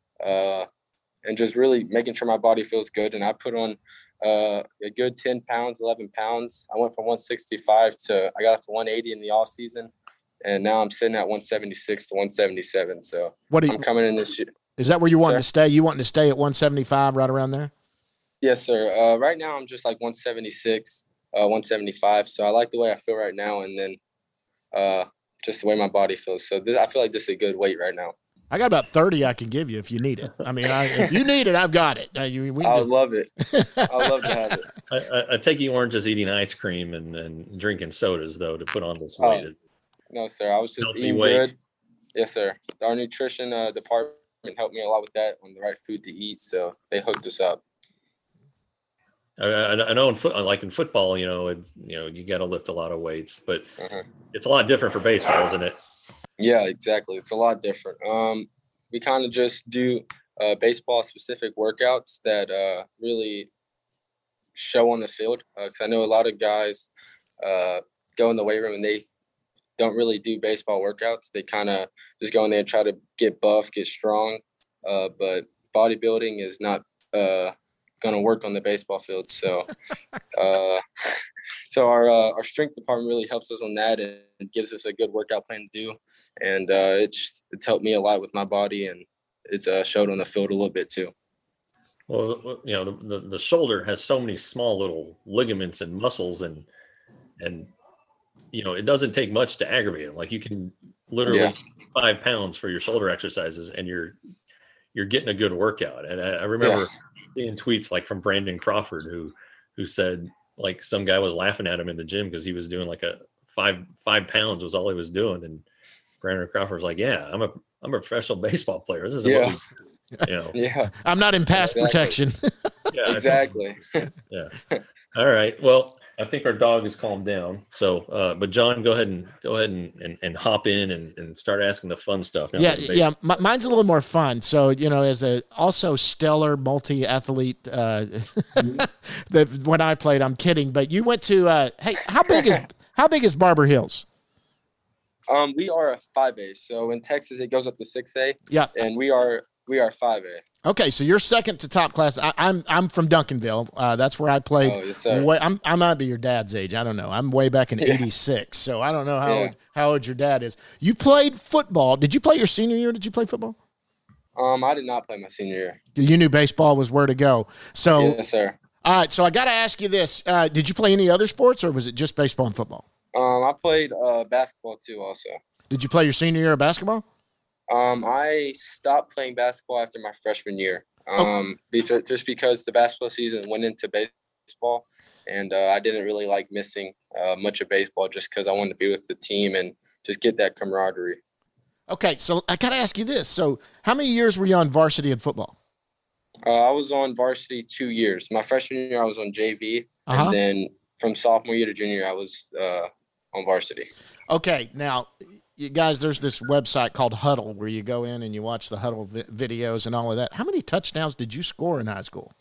and just really making sure my body feels good. And I put on a good 10 pounds, 11 pounds. I went from 165 I got up to 180 in the off season. And now I'm sitting at 176 to 177. So I'm coming in this year. Is that where you want to stay? You wanting to stay at 175, right around there? Yes, sir. Right now I'm just like 176, 175. So I like the way I feel right now, and then just the way my body feels. So I feel like this is a good weight right now. I got about 30 I can give you if you need it. I mean, if you need it, I've got it. I would love it. I'd love to have it. I take you weren't just eating ice cream and drinking sodas, though, to put on this weight. No, sir. I was just Healthy eating weight. good. Yes, sir. Our nutrition department helped me a lot with that, on the right food to eat. So they hooked us up. I know in football, it's, you got to lift a lot of weights, but Uh-huh. it's a lot different for baseball, isn't it? Yeah, exactly. It's a lot different. We kind of just do baseball specific workouts that really show on the field. Because I know a lot of guys go in the weight room and they don't really do baseball workouts. They kind of just go in there and try to get buff, get strong. But bodybuilding is not going to work on the baseball field. So, so our strength department really helps us on that and gives us a good workout plan to do. And it's helped me a lot with my body, and it's showed on the field a little bit too. Well, the shoulder has so many small little ligaments and muscles, and it doesn't take much to aggravate them. Like, you can literally 5 pounds for your shoulder exercises, and you're getting a good workout. And I remember seeing tweets like from Brandon Crawford, who said, like, some guy was laughing at him in the gym because he was doing like a 5 pounds was all he was doing. And Brandon Crawford was like, yeah, I'm a professional baseball player. This isn't what we, Yeah. I'm not in pass protection. Yeah, Exactly. Yeah. All right. Well, I think our dog has calmed down. So, but John, go ahead and hop in and start asking the fun stuff. Mine's a little more fun. So, as a also stellar multi-athlete, that when I played, I'm kidding, but you went to, hey, how big is Barber Hills? We are a 5A. So in Texas, it goes up to 6A. Yeah. And we are 5A. Okay, so you're second to top class. I'm from Duncanville. That's where I played. Oh, yes, sir. I might be your dad's age. I don't know. I'm way back in '86, so I don't know how old your dad is. You played football. Did you play your senior year? Did you play football? I did not play my senior year. You knew baseball was where to go. So Yes, sir. All right, so I got to ask you this: did you play any other sports, or was it just baseball and football? I played basketball too, also. Did you play your senior year of basketball? I stopped playing basketball after my freshman year. Just because the basketball season went into baseball, and I didn't really like missing much of baseball just because I wanted to be with the team and just get that camaraderie. Okay, so I got to ask you this: so how many years were you on varsity in football? I was on varsity 2 years. My freshman year, I was on JV, and then from sophomore year to junior year, I was on varsity. Okay, now, you guys, there's this website called Huddle where you go in and you watch the Huddle videos and all of that. How many touchdowns did you score in high school?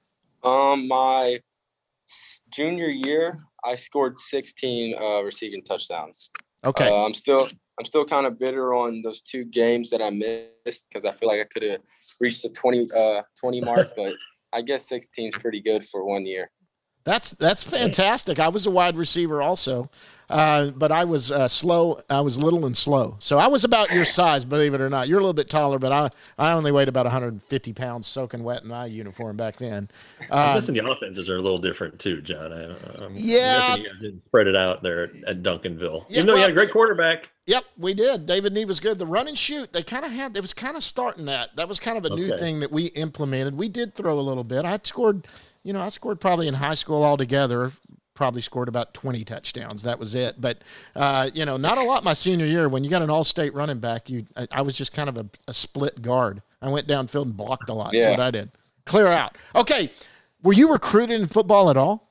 My junior year, I scored 16 receiving touchdowns. Okay. I'm still kind of bitter on those 2 games that I missed because I feel like I could have reached the 20 mark, but I guess 16 is pretty good for 1 year. That's fantastic. I was a wide receiver also, but I was slow. I was little and slow. So I was about your size, believe it or not. You're a little bit taller, but I only weighed about 150 pounds soaking wet in my uniform back then. I'm guessing the offenses are a little different too, John. I'm guessing you guys didn't spread it out there at Duncanville. Even though you had a great quarterback. Yep, we did. David Nee was good. The run and shoot, it was kind of starting that. That was kind of a new thing that we implemented. We did throw a little bit. I scored probably in high school altogether, probably scored about 20 touchdowns. That was it. But, not a lot my senior year. When you got an all-state running back, I was just kind of a split guard. I went downfield and blocked a lot. That's what I did. Clear out. Okay. Were you recruited in football at all?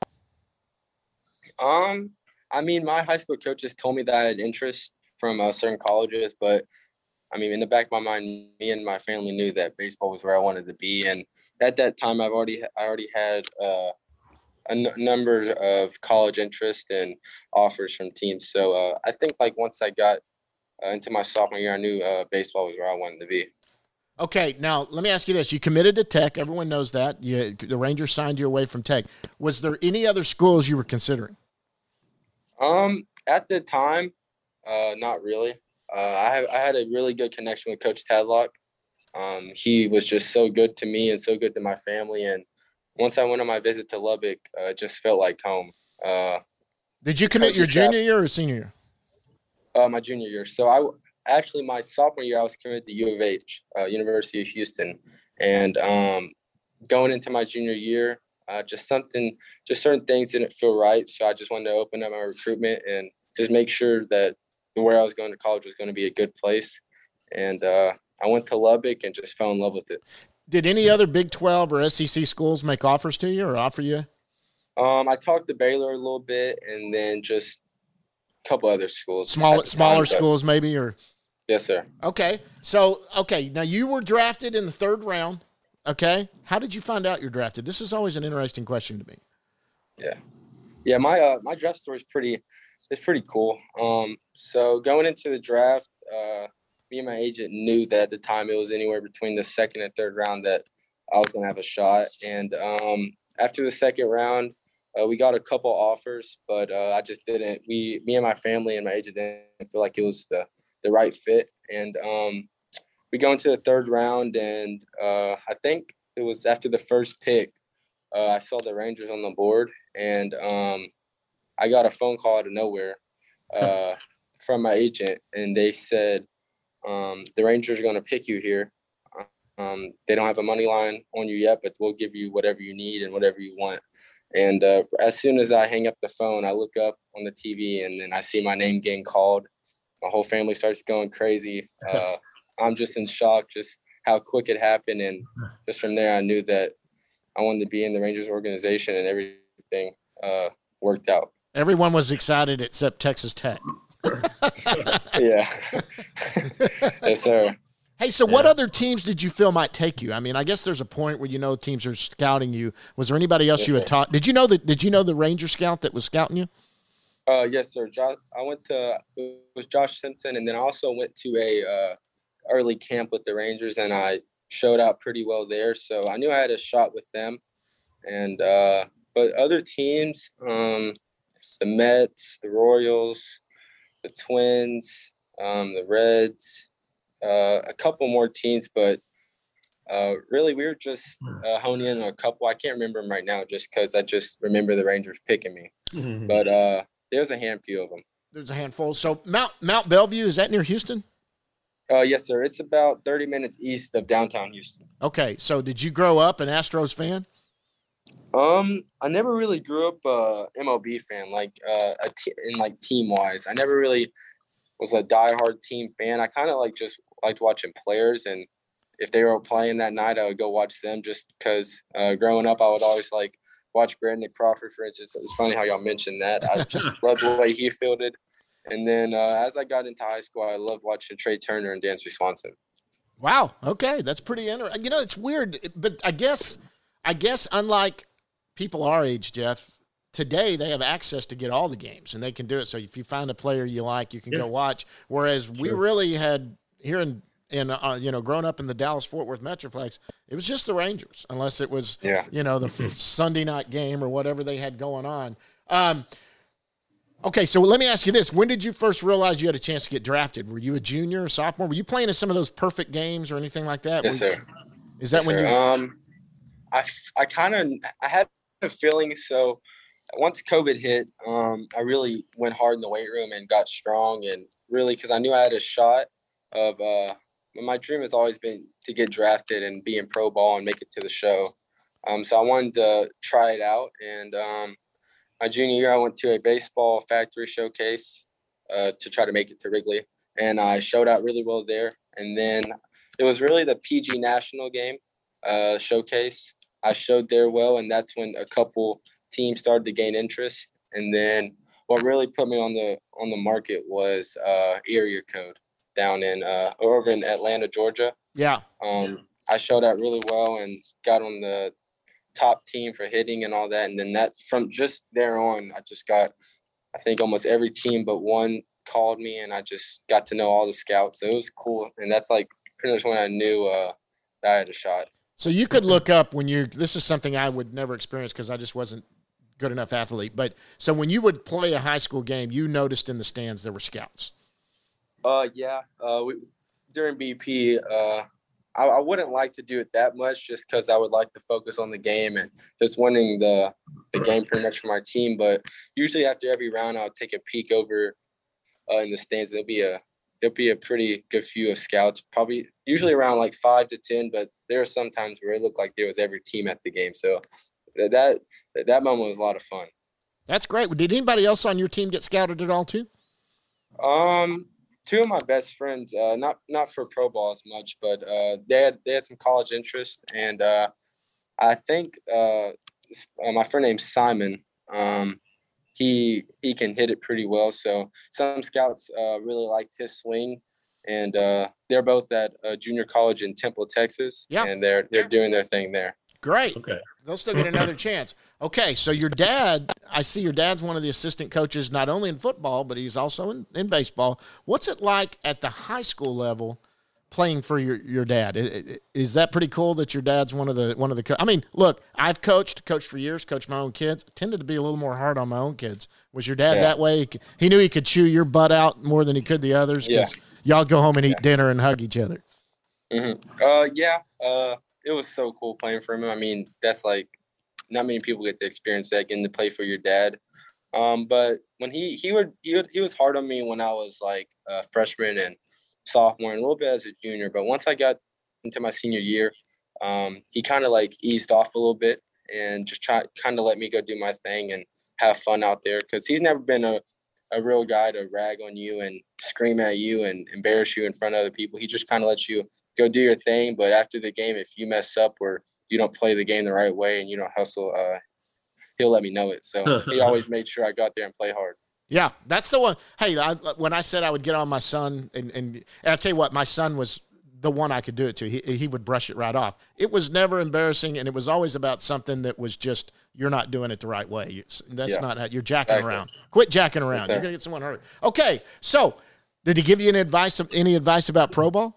I mean, my high school coaches told me that I had interest from certain colleges, but I mean, in the back of my mind, me and my family knew that baseball was where I wanted to be. And at that time, I already had a number of college interest and offers from teams. So I think like once I got into my sophomore year, I knew baseball was where I wanted to be. Okay, now let me ask you this. You committed to Tech. Everyone knows that. The Rangers signed you away from Tech. Was there any other schools you were considering? At the time, not really. I had a really good connection with Coach Tadlock. He was just so good to me and so good to my family. And once I went on my visit to Lubbock, it just felt like home. Did you commit your junior year or senior year? My junior year. So my sophomore year, I was committed to U of H, University of Houston. And going into my junior year, just certain things didn't feel right. So I just wanted to open up my recruitment and just make sure that where I was going to college was going to be a good place. And I went to Lubbock and just fell in love with it. Did any other Big 12 or SEC schools make offers to you or offer you? I talked to Baylor a little bit, and then just a couple other schools. Smaller schools maybe, or? Yes, sir. Okay. So, now you were drafted in the 3rd round. Okay. How did you find out you're drafted? This is always an interesting question to me. Yeah. My draft story is pretty cool. So going into the draft, me and my agent knew that at the time it was anywhere between the 2nd and 3rd round that I was going to have a shot. And after the 2nd round, we got a couple offers, but I just didn't. Me and my family and my agent didn't feel like it was the right fit. And we go into the 3rd round, and I think it was after the first pick, I saw the Rangers on the board, and I got a phone call out of nowhere from my agent, and they said, the Rangers are going to pick you here. They don't have a money line on you yet, but we'll give you whatever you need and whatever you want. And as soon as I hang up the phone, I look up on the TV, and then I see my name getting called. My whole family starts going crazy. I'm just in shock, just how quick it happened. And just from there, I knew that I wanted to be in the Rangers organization, and everything worked out. Everyone was excited except Texas Tech. Yeah. Yes, sir. Hey, so what other teams did you feel might take you? I mean, I guess there's a point where teams are scouting you. Was there anybody else you had taught? Did you know the Ranger scout that was scouting you? Yes, sir. It was Josh Simpson, and then I also went to a early camp with the Rangers, and I showed out pretty well there. So I knew I had a shot with them. And but other teams, the Mets, the Royals, the Twins, the Reds, a couple more teams, but really we were just honing in on a couple. I can't remember them right now just because I just remember the Rangers picking me. Mm-hmm. But there's a handful of them. There's a handful. So Mount Bellevue, is that near Houston? Yes, sir. It's about 30 minutes east of downtown Houston. Okay. So did you grow up an Astros fan? I never really grew up MLB fan, team wise. I never really was a diehard team fan. I kind of just liked watching players, and if they were playing that night, I would go watch them just because growing up, I would always watch Brandon Crawford, for instance. It was funny how y'all mentioned that. I just loved the way he fielded. And then as I got into high school, I loved watching Trey Turner and Dansby Swanson. Wow. Okay. That's pretty interesting. It's weird, but I guess unlike people our age, Jeff, today they have access to get all the games, and they can do it. So if you find a player you like, you can go watch. Whereas we really had here in growing up in the Dallas-Fort Worth Metroplex, it was just the Rangers, unless it was, the Sunday night game or whatever they had going on. Okay, so let me ask you this. When did you first realize you had a chance to get drafted? Were you a junior or sophomore? Were you playing in some of those perfect games or anything like that? Yes, sir. Is that when you I had a feeling. So once COVID hit, I really went hard in the weight room and got strong, and really because I knew I had a shot of my dream has always been to get drafted and be in pro ball and make it to the show. So I wanted to try it out, and my junior year, I went to a baseball factory showcase to try to make it to Wrigley, and I showed out really well there. And then it was really the PG National game showcase. I showed there well, and that's when a couple teams started to gain interest. And then what really put me on the market was area code down in over in Atlanta, Georgia. Yeah. I showed out really well and got on the top team for hitting and all that. And then that from just there on, I just got, I think almost every team but one called me, and I just got to know all the scouts. So it was cool. And that's pretty much when I knew that I had a shot. So you could look up this is something I would never experience because I just wasn't good enough athlete. But so when you would play a high school game, you noticed in the stands there were scouts. Yeah. During BP, I wouldn't like to do it that much just because I would like to focus on the game and just winning the game pretty much for my team. But usually after every round, I'll take a peek over in the stands. There'll be a pretty good few of scouts, probably usually around 5 to 10. But there are some times where it looked like there was every team at the game. So that moment was a lot of fun. That's great. Did anybody else on your team get scouted at all too? Two of my best friends, not for pro ball as much, but they had some college interest, and I think my friend named Simon. He can hit it pretty well. So some scouts really liked his swing, and they're both at junior college in Temple, Texas. Yeah, and they're doing their thing there. Great. Okay. They'll still get another chance. Okay, so your dad, I see your dad's one of the assistant coaches not only in football, but he's also in baseball. What's it like at the high school level playing for your dad? Is that pretty cool that your dad's one of the I mean, look, I've coached for years, coached my own kids. Tended to be a little more hard on my own kids. Was your dad that way? He knew he could chew your butt out more than he could the others. Yeah. Y'all go home and eat dinner and hug each other. Mm-hmm. It was so cool playing for him. I mean, that's like not many people get to experience that, getting to play for your dad. But when he was hard on me when I was like a freshman and sophomore and a little bit as a junior. But once I got into my senior year, he kind of like eased off a little bit and just kind of let me go do my thing and have fun out there. Cause he's never been a real guy to rag on you and scream at you and embarrass you in front of other people. He just kind of lets you go do your thing. But after the game, if you mess up or you don't play the game the right way and you don't hustle, he'll let me know it. So he always made sure I got there and play hard. Yeah, that's the one. Hey, when I said I would get on my son, and I'll tell you what, my son was the one I could do it to. He would brush it right off. It was never embarrassing, and it was always about something that was just, you're not doing it the right way. That's not how you're jacking around. Quit jacking around. You're going to get someone hurt. Okay, so did he give you any advice about pro ball?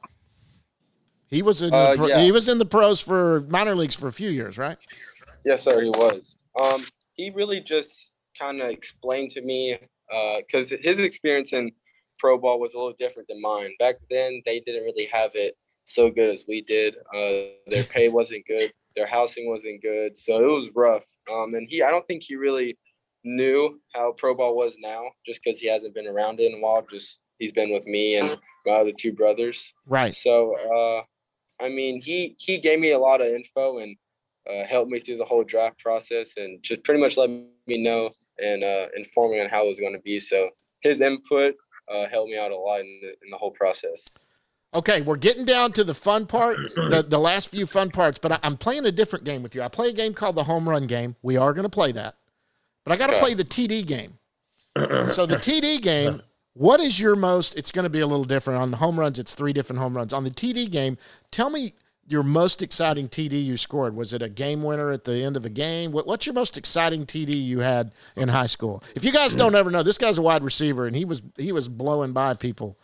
He was in he was in the pros for minor leagues for a few years, right? Yes, sir, he was. He really just kind of explained to me, because his experience in pro ball was a little different than mine. Back then, they didn't really have it so good as we did. Their pay wasn't good. Their housing wasn't good. So it was rough. And I don't think he really knew how pro ball was now, just because he hasn't been around it in a while. Just he's been with me and my other two brothers. Right. So, I mean, he gave me a lot of info and helped me through the whole draft process and just pretty much let me know and inform me on how it was going to be. So his input helped me out a lot in the whole process. Okay, we're getting down to the fun part, the last few fun parts, but I'm playing a different game with you. I play a game called the home run game. We are going to play that. But I got to play the TD game. So the TD game, what is your most – it's going to be a little different. On the home runs, it's 3 different home runs. On the TD game, tell me your most exciting TD you scored. Was it a game winner at the end of a game? What's your most exciting TD you had in high school? If you guys don't ever know, this guy's a wide receiver, and he was blowing by people.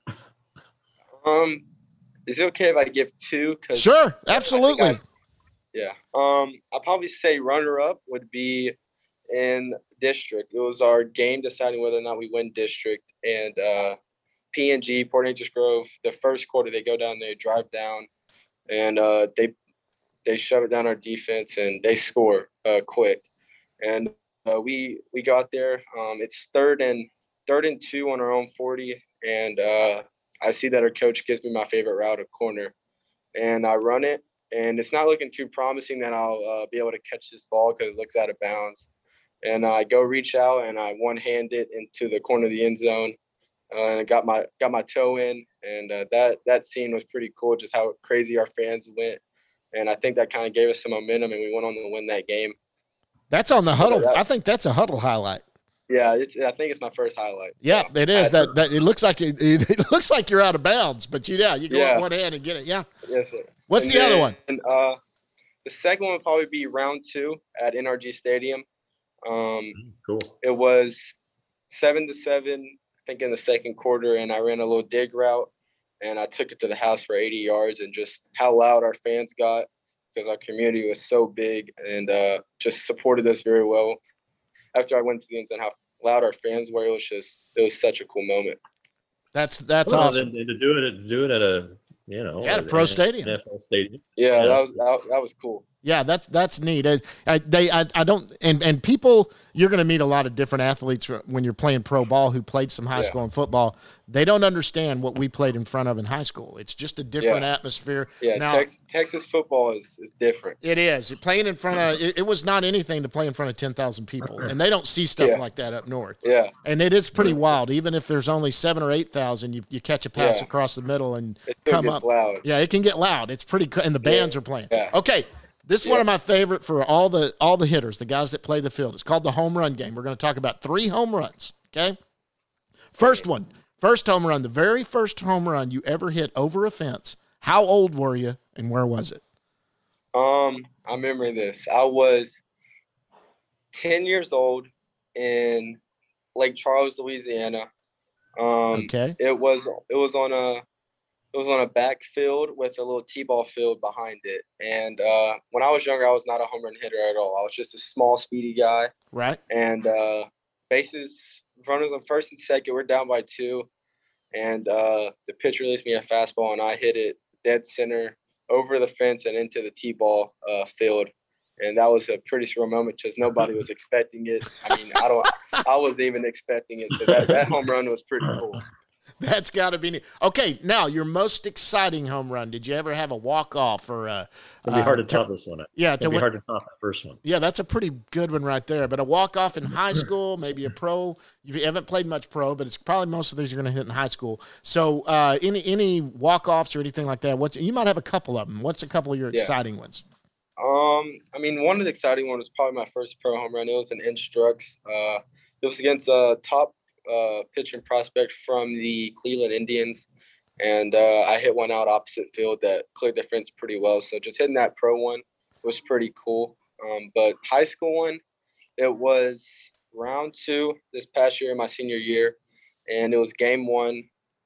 Is it okay if I give 2? Sure, absolutely. I'll probably say runner-up would be in district. It was our game deciding whether or not we win district. And P&G, Port Neches Grove, the first quarter, they go down there, drive down, and they shove it down our defense, and they score quick. And we got there. It's third and 2 on our own 40, and I see that our coach gives me my favorite route, a corner, and I run it, and it's not looking too promising that I'll be able to catch this ball because it looks out of bounds. And I go reach out, and I one-hand it into the corner of the end zone, and I got my toe in, and that scene was pretty cool, just how crazy our fans went. And I think that kind of gave us some momentum, and we went on to win that game. That's on the huddle. I think that's a huddle highlight. Yeah, I think it's my first highlight. So yeah, it is. That it looks like it looks like you're out of bounds, but you go up one hand and get it. Yeah. Yes, sir. What's the other one? And the second one would probably be round 2 at NRG Stadium. Cool. It was 7-7, I think, in the second quarter, and I ran a little dig route, and I took it to the house for 80 yards, and just how loud our fans got because our community was so big and just supported us very well. After I went to the end zone, how loud our fans were, it was such a cool moment. That's awesome. And to do it at a a pro stadium. NFL stadium. Yeah, that was cool. Yeah, that's neat. I don't and people, you're going to meet a lot of different athletes when you're playing pro ball who played some high school and football. They don't understand what we played in front of in high school. It's just a different atmosphere. Yeah, now, Texas football is different. It is. Playing in front of it was not anything to play in front of 10,000 people, and they don't see stuff like that up north. Yeah, and it is pretty wild. Even if there's only 7,000 or 8,000, you catch a pass across the middle and it come up. Loud. Yeah, it can get loud. It's pretty, and the bands are playing. Yeah. Okay. This is one of my favorite for all the hitters, the guys that play the field. It's called the home run game. We're going to talk about 3 home runs, okay? First home run, the very first home run you ever hit over a fence. How old were you, and where was it? I remember this. I was 10 years old in Lake Charles, Louisiana. Okay. It was on a backfield with a little T-ball field behind it. And when I was younger, I was not a home run hitter at all. I was just a small, speedy guy. Right. And bases, runners on first and second, we're down by 2. And the pitcher released me a fastball, and I hit it dead center over the fence and into the T-ball field. And that was a pretty surreal moment because nobody was expecting it. I mean, I wasn't even expecting it. So that home run was pretty cool. That's got to be neat. Okay, now your most exciting home run. Did you ever have a walk-off or it'd be hard to top this one. Yeah, it'd be hard to top that first one. Yeah, that's a pretty good one right there. But a walk-off in high school, maybe a pro. You haven't played much pro, but it's probably most of these you're going to hit in high school. So any walk-offs or anything like that? You might have a couple of them. What's a couple of your exciting ones? I mean, one of the exciting ones was probably my first pro home run. It was an Instructs. It was against a top pitching prospect from the Cleveland Indians, and I hit one out opposite field that cleared the fence pretty well. So just hitting that pro one was pretty cool. But high school one, it was round 2 this past year, my senior year, and it was game 1.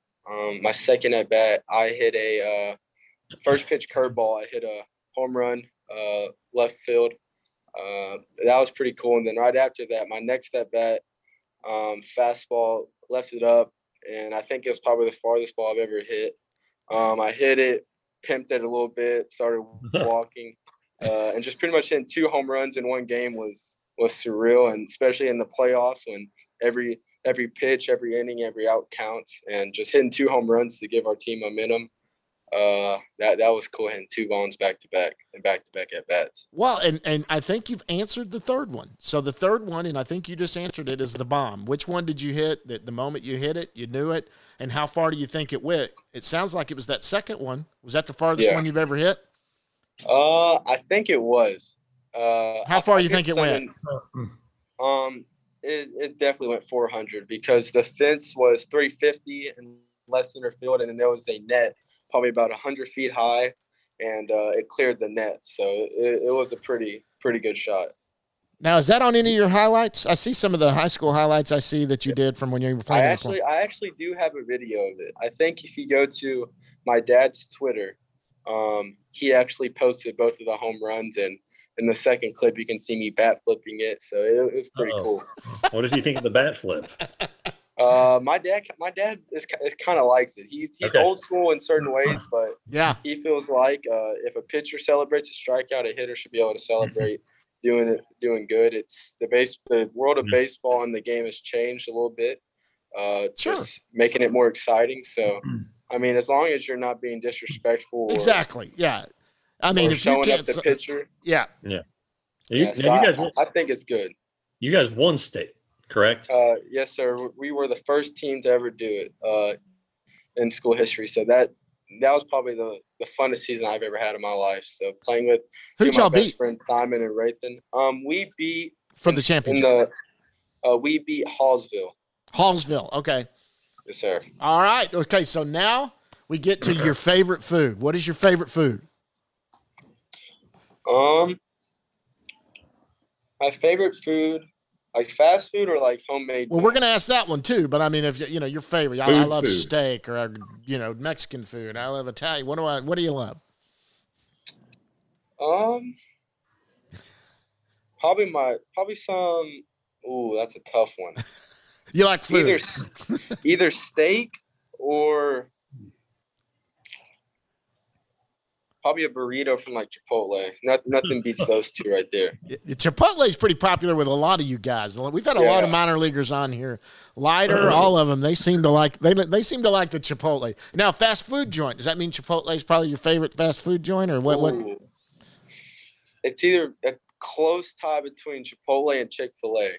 My second at bat, I hit a first pitch curveball. I hit a home run left field. That was pretty cool. And then right after that, my next at bat, fastball, left it up, and I think it was probably the farthest ball I've ever hit. I hit it, pimped it a little bit, started walking, and just pretty much hitting 2 home runs in one game was surreal, and especially in the playoffs when every pitch, every inning, every out counts, and just hitting 2 home runs to give our team momentum. That was cool, hitting 2 bombs back to back and back to back at bats. Well, and I think you've answered the third one. So the third one, and I think you just answered it, is the bomb. Which one did you hit? That the moment you hit it, you knew it, and how far do you think it went? It sounds like it was that second one. Was that the farthest one you've ever hit? I think it was. How far do you think it went? It definitely went 400 because the fence was 350 in left center field, and then there was a net probably about 100 feet high, and it cleared the net. So it was a pretty good shot. Now, is that on any of your highlights? I see some of the high school highlights I see that you did from when you were playing. I actually do have a video of it. I think if you go to my dad's Twitter, he actually posted both of the home runs, and in the second clip, you can see me bat flipping it. So it was pretty cool. What did you think of the bat flip? My dad is kind of likes it. He's old school in certain ways, but he feels like if a pitcher celebrates a strikeout, a hitter should be able to celebrate doing good. It's the world of baseball and the game has changed a little bit, just making it more exciting. So, I mean, as long as you're not being disrespectful, exactly, I mean, if you can't, up the pitcher, I think it's good. You guys won state, correct? Yes, sir. We were the first team to ever do it in school history. So that was probably the funnest season I've ever had in my life. So playing with my best friends Simon and Rathan. We beat for the championship. We beat Hallsville. Hallsville. Okay. Yes, sir. All right. Okay. So now we get to your favorite food. What is your favorite food? My favorite food, like fast food or like homemade. Well, we're gonna ask that one too. But I mean, if you know your favorite, I love steak or Mexican food. I love Italian. What do you love? Probably some. Ooh, that's a tough one. You like food? Either steak or probably a burrito from like Chipotle. Nothing beats those two right there. Chipotle is pretty popular with a lot of you guys. We've had a lot of minor leaguers on here. Leiter, all of them. They seem to like they seem to like the Chipotle. Now, fast food joint. Does that mean Chipotle is probably your favorite fast food joint, or what? Ooh. It's either a close tie between Chipotle and Chick-fil-A.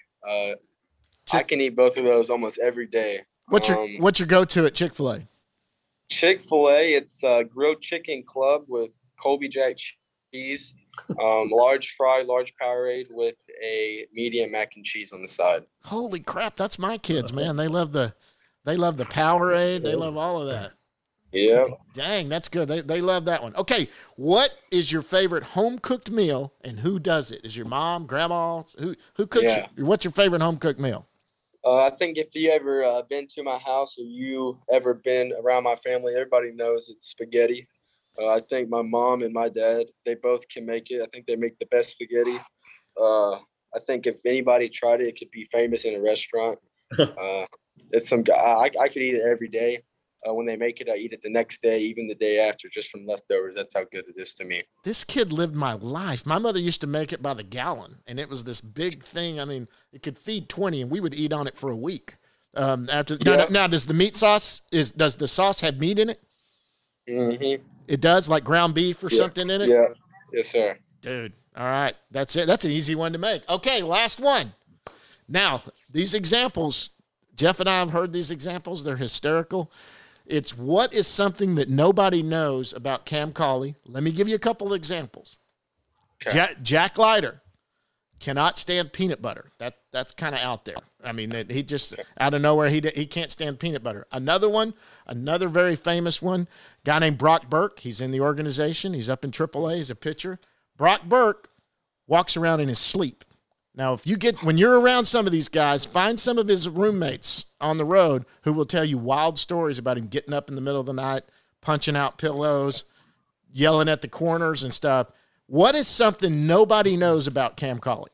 I can eat both of those almost every day. What's your go-to at Chick-fil-A? Chick-fil-A, it's a grilled chicken club with Colby Jack cheese, large fry, large Powerade with a medium mac and cheese on the side. Holy crap, that's my kids, man. They love the Powerade. They love all of that. Yeah. Dang, that's good. They love that one. Okay, what is your favorite home-cooked meal, and who does it? Is your mom, grandma? Who cooks it? What's your favorite home-cooked meal? I think if you ever been to my house or you ever been around my family, everybody knows it's spaghetti. I think my mom and my dad, they both can make it. I think they make the best spaghetti. I think if anybody tried it, it could be famous in a restaurant. It's some guy. I could eat it every day. When they make it, I eat it the next day, even the day after, just from leftovers. That's how good it is to me. This kid lived my life. My mother used to make it by the gallon, and it was this big thing. I mean, it could feed 20, and we would eat on it for a week. Now, does the meat sauce does the sauce have meat in it? Mm-hmm. It does, like ground beef or something in it? Yeah. Yes, sir. Dude, all right. That's it. That's an easy one to make. Okay, last one. Now, these examples, Jeff and I have heard these examples. They're hysterical. It's what is something that nobody knows about Cam Cauley. Let me give you a couple of examples. Okay. Jack Leiter cannot stand peanut butter. That's kind of out there. I mean, he just out of nowhere, he can't stand peanut butter. Another very famous one, guy named Brock Burke. He's in the organization. He's up in AAA. He's a pitcher. Brock Burke walks around in his sleep. Now, when you're around some of these guys, find some of his roommates on the road who will tell you wild stories about him getting up in the middle of the night, punching out pillows, yelling at the corners and stuff. What is something nobody knows about Cam Cauley?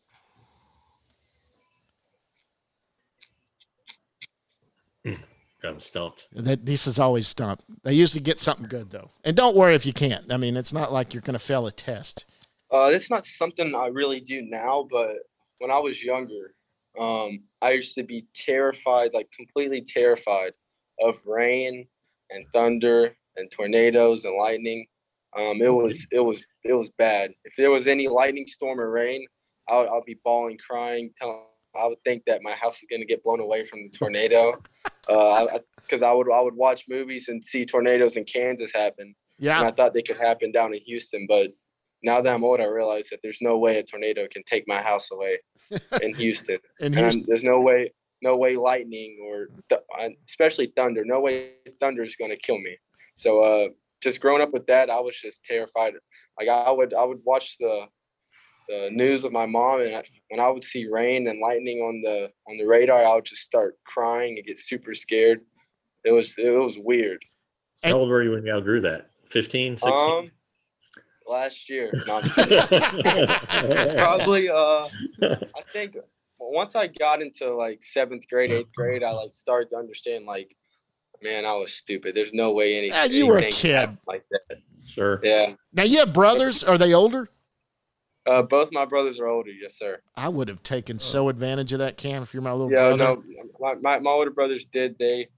I'm stumped. This is always stumped. They usually get something good, though. And don't worry if you can't. I mean, it's not like you're going to fail a test. It's not something I really do now, but when I was younger, I used to be terrified, like completely terrified of rain and thunder and tornadoes and lightning. It was bad. If there was any lightning storm or rain, I'll be bawling, crying, I would think that my house is going to get blown away from the tornado. Because I would watch movies and see tornadoes in Kansas happen. Yeah. And I thought they could happen down in Houston, but now that I'm old, I realize that there's no way a tornado can take my house away in Houston. There's no way lightning or especially thunder, no way thunder is going to kill me. So just growing up with that, I was just terrified. Like I would watch the news with my mom, and when I would see rain and lightning on the radar, I would just start crying and get super scared. It was weird. How old were you when you outgrew that? 15, 16? Last year. No, probably I think once I got into like 7th grade, 8th grade, I like started to understand like, man, I was stupid. There's no way anything. Yeah, you were a kid like that. Sure. Yeah. Now you have brothers. Are they older? Both my brothers are older. Yes, sir. I would have taken so advantage of that, Cam, if you're my little brother. No, my older brothers did.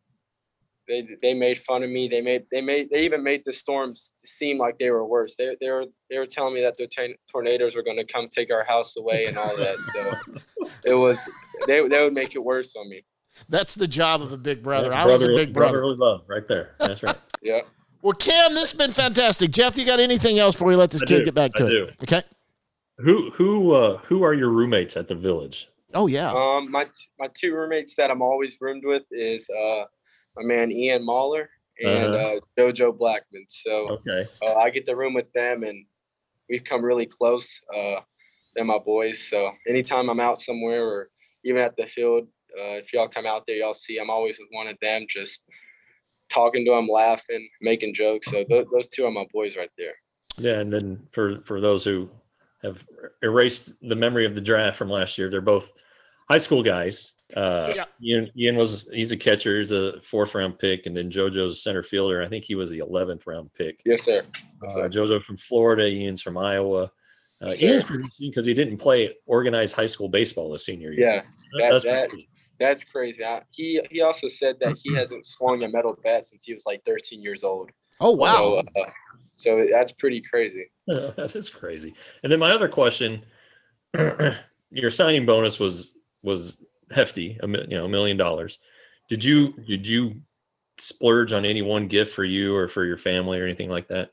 They made fun of me. They even made the storms seem like they were worse. They were telling me that the tornadoes were going to come take our house away and all that. So they would make it worse on me. That's the job of a big brother. I was a big brother. Brotherly love right there. That's right. Yeah. Well, Cam, this has been fantastic. Jeff, you got anything else before we let this kid get back to it? Okay. Who are your roommates at the Village? Oh yeah. My two roommates that I'm always roomed with is my man Ian Mahler and Jojo Blackman. So I get to room with them, and we've come really close. They're my boys. So anytime I'm out somewhere or even at the field, if y'all come out there, y'all see I'm always with one of them, just talking to them, laughing, making jokes. So those two are my boys right there. Yeah, and then for those who have erased the memory of the draft from last year, they're both high school guys. Ian he's a catcher. He's a 4th round pick, and then JoJo's center fielder. I think he was the 11th round pick. Yes, sir. Yes, sir. JoJo from Florida. Ian's from Iowa. Ian's pretty interesting because he didn't play organized high school baseball his senior year. Yeah, that's crazy. He also said that he hasn't swung a metal bat since he was like 13 years old. Oh, wow. So that's pretty crazy. Yeah, that is crazy. And then my other question, your signing bonus was hefty, $1 million. Did you splurge on any one gift for you or for your family or anything like that?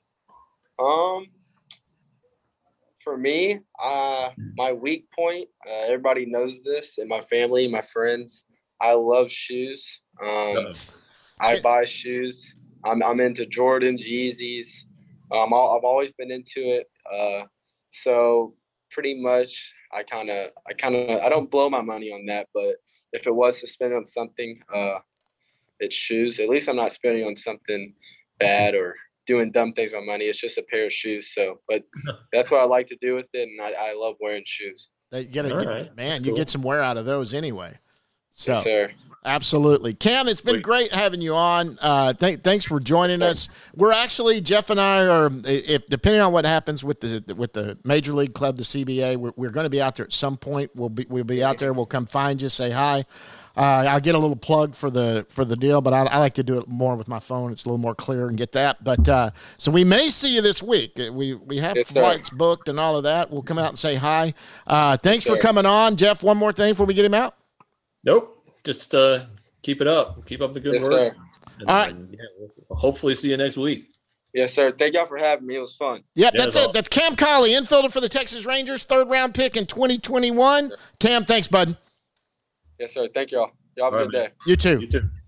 For me, my weak point, everybody knows this, and my family, my friends, I love shoes. I buy shoes. I'm into Jordans, Yeezys. I've always been into it. So pretty much I don't blow my money on that, but if it was to spend on something, it's shoes. At least I'm not spending on something bad or doing dumb things with money. It's just a pair of shoes. So, but that's what I like to do with it. And I love wearing shoes. You get some wear out of those anyway. So, yes, sir. Absolutely. Cam, it's been great having you on. Thanks for joining us. We're actually, Jeff and I are, if depending on what happens with the Major League Club, the CBA, we're going to be out there at some point. We'll be out there. We'll come find you, say hi. I'll get a little plug for the deal, but I like to do it more with my phone. It's a little more clear and get that. But so we may see you this week. We have flights booked and all of that. We'll come out and say hi. Thanks for coming on, Jeff. One more thing before we get him out. Nope. Just keep it up. Keep up the good work. All right. We'll hopefully see you next week. Yes, sir. Thank y'all for having me. It was fun. Yep, that's it. That's Cam Collie, infielder for the Texas Rangers, 3rd round pick in 2021. Cam, thanks, bud. Yes, sir. Thank y'all. Y'all have a good day. You too. You too.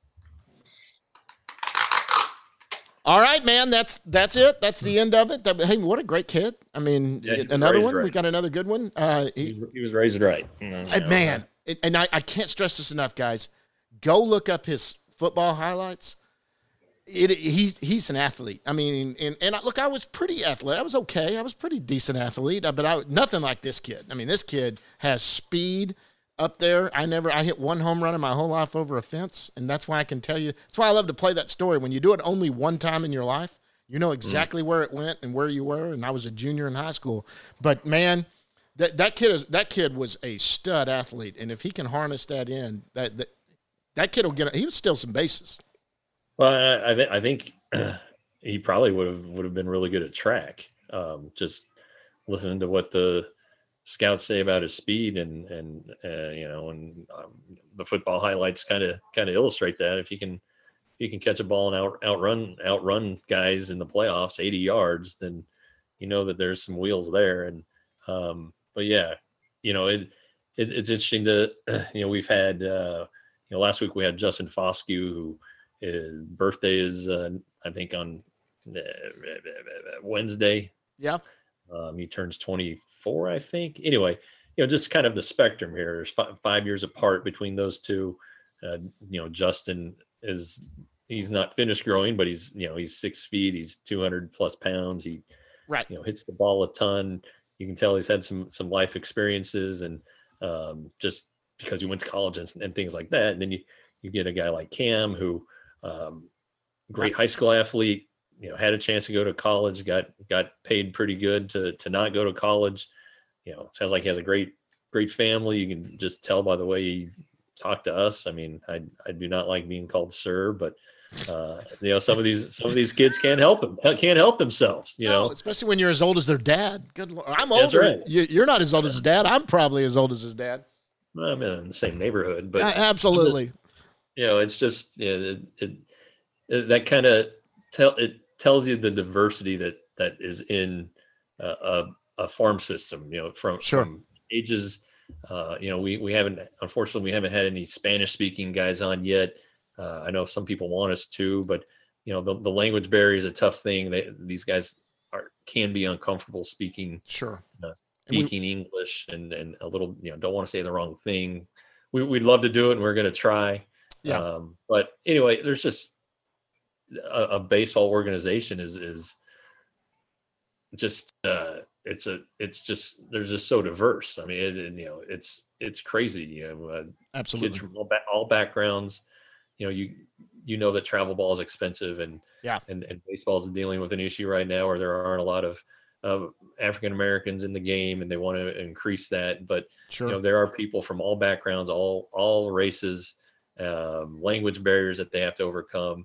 All right, man. That's it. That's the end of it. Hey, what a great kid. I mean, another one. Right. We got another good one. He was raised right. Man, and I can't stress this enough, guys. Go look up his football highlights. He's an athlete. I mean, and look, I was pretty athletic. I was okay. I was pretty decent athlete, but nothing like this kid. I mean, this kid has speed up there. I hit one home run in my whole life over a fence, and that's why I can tell you. That's why I love to play that story. When you do it only one time in your life, you know exactly where it went and where you were. And I was a junior in high school, but man, that kid was a stud athlete, and if he can harness that in, that kid will get. He would steal some bases. Well, I think he probably would have been really good at track. Just listening to what the scouts say about his speed and the football highlights kind of illustrate that. If he can catch a ball and outrun guys in the playoffs 80 yards, then you know that there's some wheels there. And but yeah, it's interesting to we've had last week we had Justin Foscue, who his birthday is I think on Wednesday. Yeah. He turns 24, I think. Anyway, just kind of the spectrum here. There's 5 years apart between those two. Justin he's not finished growing, but he's 6 feet. He's 200 plus pounds. He hits the ball a ton. You can tell he's had some life experiences, and just because he went to college and things like that. And then you get a guy like Cam, who great high school athlete, had a chance to go to college, got paid pretty good to not go to college. It sounds like he has a great family. You can just tell by the way he talked to us. I mean, I do not like being called sir, but some of these kids can't help themselves. No, especially when you're as old as their dad. Good Lord. I'm older. Right. You're not as old as his dad. I'm probably as old as his dad. Well, I'm in the same neighborhood, but absolutely. It's just that kind of tells you the diversity that is in a farm system. From ages. We haven't had any Spanish speaking guys on yet. I know some people want us to, but the language barrier is a tough thing. These guys can be uncomfortable speaking. Speaking English and a little, don't want to say the wrong thing. We'd love to do it, and we're going to try. Yeah. But anyway, there's just a baseball organization is just it's just they're just so diverse. I mean, it's crazy. Absolutely. Kids from all backgrounds. You know that travel ball is expensive, and baseball is dealing with an issue right now where there aren't a lot of African Americans in the game, and they want to increase that. But there are people from all backgrounds, all races, language barriers that they have to overcome.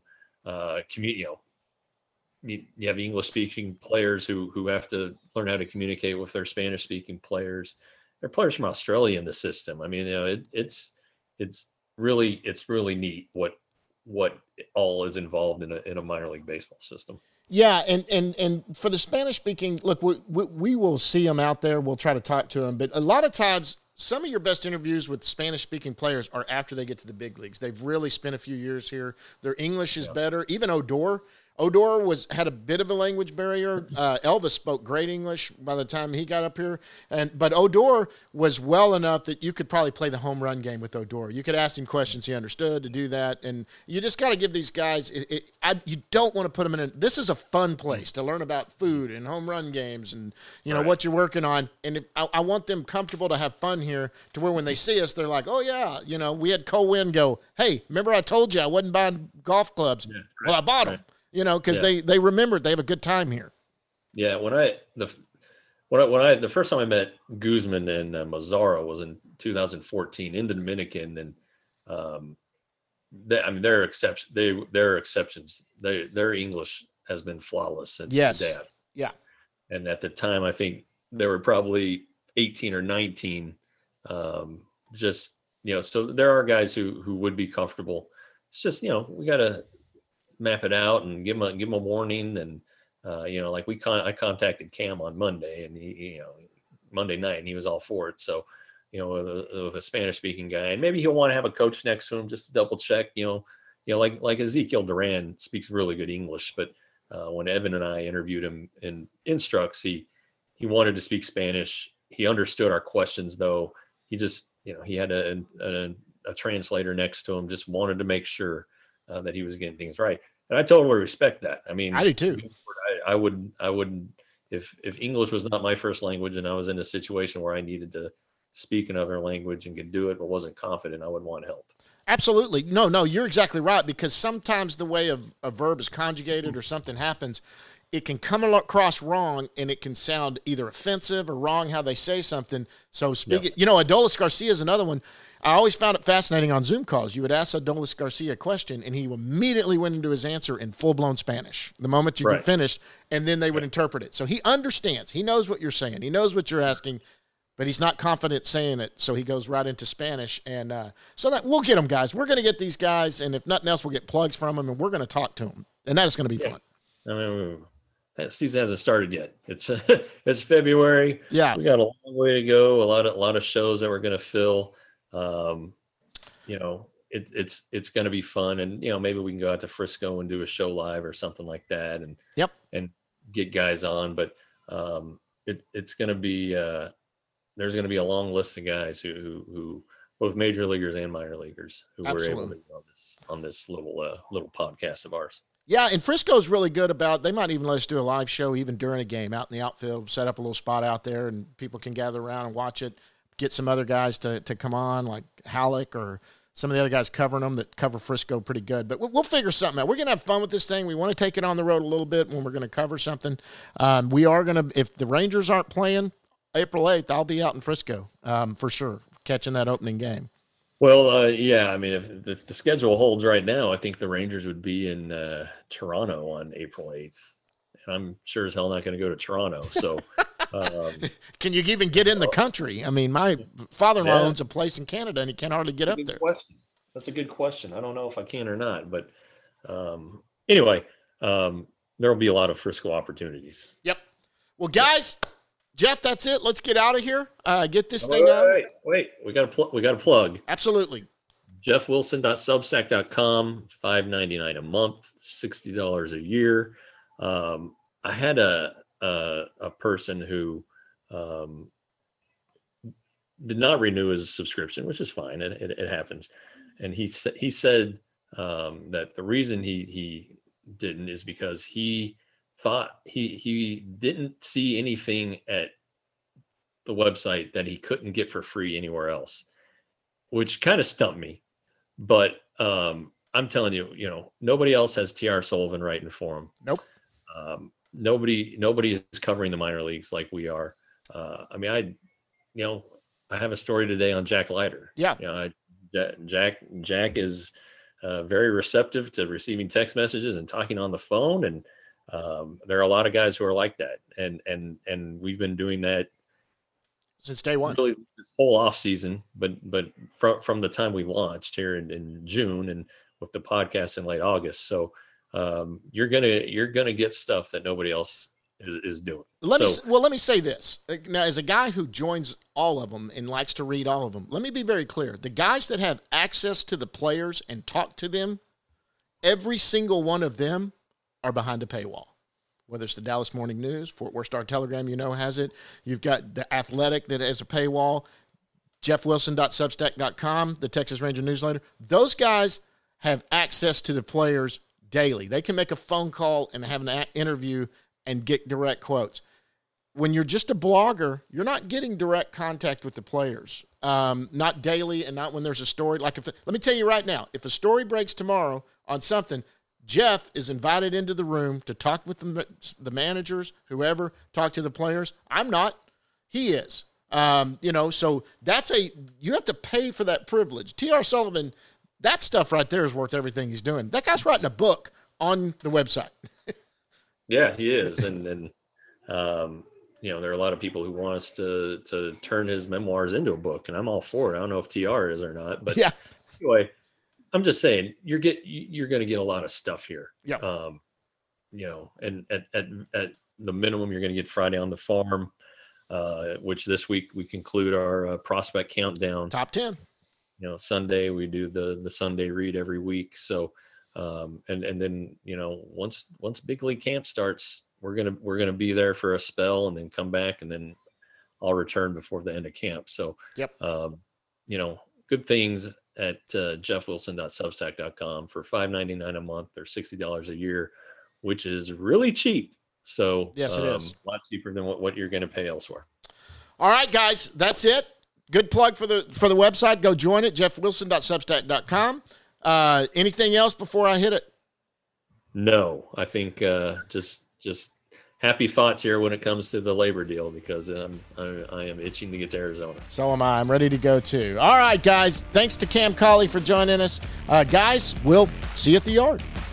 You have English speaking players who have to learn how to communicate with their Spanish speaking players. There are players from Australia in the system. I mean, it's really neat what all is involved in a minor league baseball system. Yeah, and for the Spanish speaking, look, we will see them out there. We'll try to talk to them, but a lot of times, some of your best interviews with Spanish speaking players are after they get to the big leagues. They've really spent a few years here. Their English is better. Even Odor had a bit of a language barrier. Elvis spoke great English by the time he got up here, but Odor was well enough that you could probably play the home run game with Odor. You could ask him questions he understood to do that, and you just got to give these guys. You don't want to put them in. This is a fun place to learn about food and home run games, and what you're working on. And I want them comfortable to have fun here, to where when they see us, they're like, "Oh yeah, we had Cole Winn go, hey, remember I told you I wasn't buying golf clubs? Yeah, right, well, I bought them." Because they remembered they have a good time here. Yeah, the first time I met Guzman and Mazzara was in 2014 in the Dominican, and they're exceptions. Their English has been flawless since the dad. Yeah, and at the time I think they were probably 18 or 19. So there are guys who would be comfortable. It's just we got to map it out and give them a warning. And I contacted Cam on Monday, and he Monday night, and he was all for it. So with a Spanish speaking guy, and maybe he'll want to have a coach next to him just to double check. Like Ezekiel Duran speaks really good English, but when Evan and I interviewed him in Instructs, he wanted to speak Spanish. He understood our questions, though. He just he had a translator next to him, just wanted to make sure that he was getting things right. And I totally respect that. I mean, I do too. I wouldn't, if English was not my first language and I was in a situation where I needed to speak another language and could do it, but wasn't confident, I would want help. Absolutely. No, you're exactly right, because sometimes the way a verb is conjugated or something happens, it can come across wrong, and it can sound either offensive or wrong how they say something. So Adolis Garcia is another one. I always found it fascinating on Zoom calls. You would ask Adolis Garcia a question, and he immediately went into his answer in full-blown Spanish the moment you could finish, and then they would interpret it. So he understands. He knows what you're saying. He knows what you're asking, but he's not confident saying it, so he goes right into Spanish. And so that we'll get them, guys. We're going to get these guys, and if nothing else, we'll get plugs from them, and we're going to talk to them. And that is going to be fun. I mean, that season hasn't started yet. It's February. Yeah. We got a long way to go, a lot of shows that we're going to fill. It's going to be fun, and maybe we can go out to Frisco and do a show live or something like that, and get guys on. But it's going to be there's going to be a long list of guys who both major leaguers and minor leaguers who were able to be on this little podcast of ours. Yeah, and Frisco's really good about, they might even let us do a live show even during a game out in the outfield, set up a little spot out there, and people can gather around and watch it. Get some other guys to come on, like Halleck or some of the other guys covering them that cover Frisco pretty good. But we'll figure something out. We're going to have fun with this thing. We want to take it on the road a little bit when we're going to cover something. We are going to, if the Rangers aren't playing April 8th, I'll be out in Frisco for sure, catching that opening game. Well, I mean, if the schedule holds right now, I think the Rangers would be in Toronto on April 8th. And I'm sure as hell not going to go to Toronto. So, can you even get in the country? I mean, my father-in-law owns a place in Canada, and he can hardly get up there. That's a good question. I don't know if I can or not. But anyway, there will be a lot of Frisco opportunities. Yep. Well, guys. Jeff, that's it. Let's get out of here. Get this thing out. Wait. We got to plug. Absolutely. JeffWilson.substack.com, $5.99 a month, $60 a year. I had a person who did not renew his subscription, which is fine. It happens. And he said that the reason he didn't is because he thought he didn't see anything at the website that he couldn't get for free anywhere else, which kind of stumped me. But I'm telling you, nobody else has T.R. Sullivan writing for him. Nope. Nobody is covering the minor leagues like we are. I have a story today on Jack Leiter. Yeah. Jack is very receptive to receiving text messages and talking on the phone, and there are a lot of guys who are like that, and we've been doing that since day one, really this whole off season. But from the time we launched here in June, and with the podcast in late August, so you're gonna get stuff that nobody else is doing. Let me say this. Now, as a guy who joins all of them and likes to read all of them, let me be very clear. The guys that have access to the players and talk to them, every single one of them are behind a paywall. Whether it's the Dallas Morning News, Fort Worth Star-Telegram, has it. You've got The Athletic that has a paywall, jeffwilson.substack.com, the Texas Ranger newsletter. Those guys have access to the players daily. They can make a phone call and have an interview and get direct quotes. When you're just a blogger, you're not getting direct contact with the players, not daily and not when there's a story. Let me tell you right now, if a story breaks tomorrow on something, Jeff is invited into the room to talk with the managers, whoever, talk to the players. I'm not. He is. So you have to pay for that privilege. T.R. Sullivan, that stuff right there is worth everything he's doing. That guy's writing a book on the website. Yeah, he is. And there are a lot of people who want us to turn his memoirs into a book, and I'm all for it. I don't know if TR is or not, but yeah. Anyway, I'm just saying you're going to get a lot of stuff here. Yeah. And at the minimum, you're going to get Friday on the Farm, which this week we conclude our prospect countdown. Top 10. Sunday we do the Sunday read every week. So, and then once big league camp starts, we're gonna be there for a spell and then come back, and then I'll return before the end of camp. So, yep. Good things at jeffwilson.substack.com for $5.99 a month or $60 a year, which is really cheap. So yes, it is a lot cheaper than what you're going to pay elsewhere. All right, guys, that's it. Good plug for the website. Go join it, jeffwilson.substack.com. Anything else before I hit it? No, I think just happy thoughts here when it comes to the labor deal, because I am itching to get to Arizona. So am I. I'm ready to go too. All right, guys. Thanks to Cam Colley for joining us. Guys, we'll see you at the yard.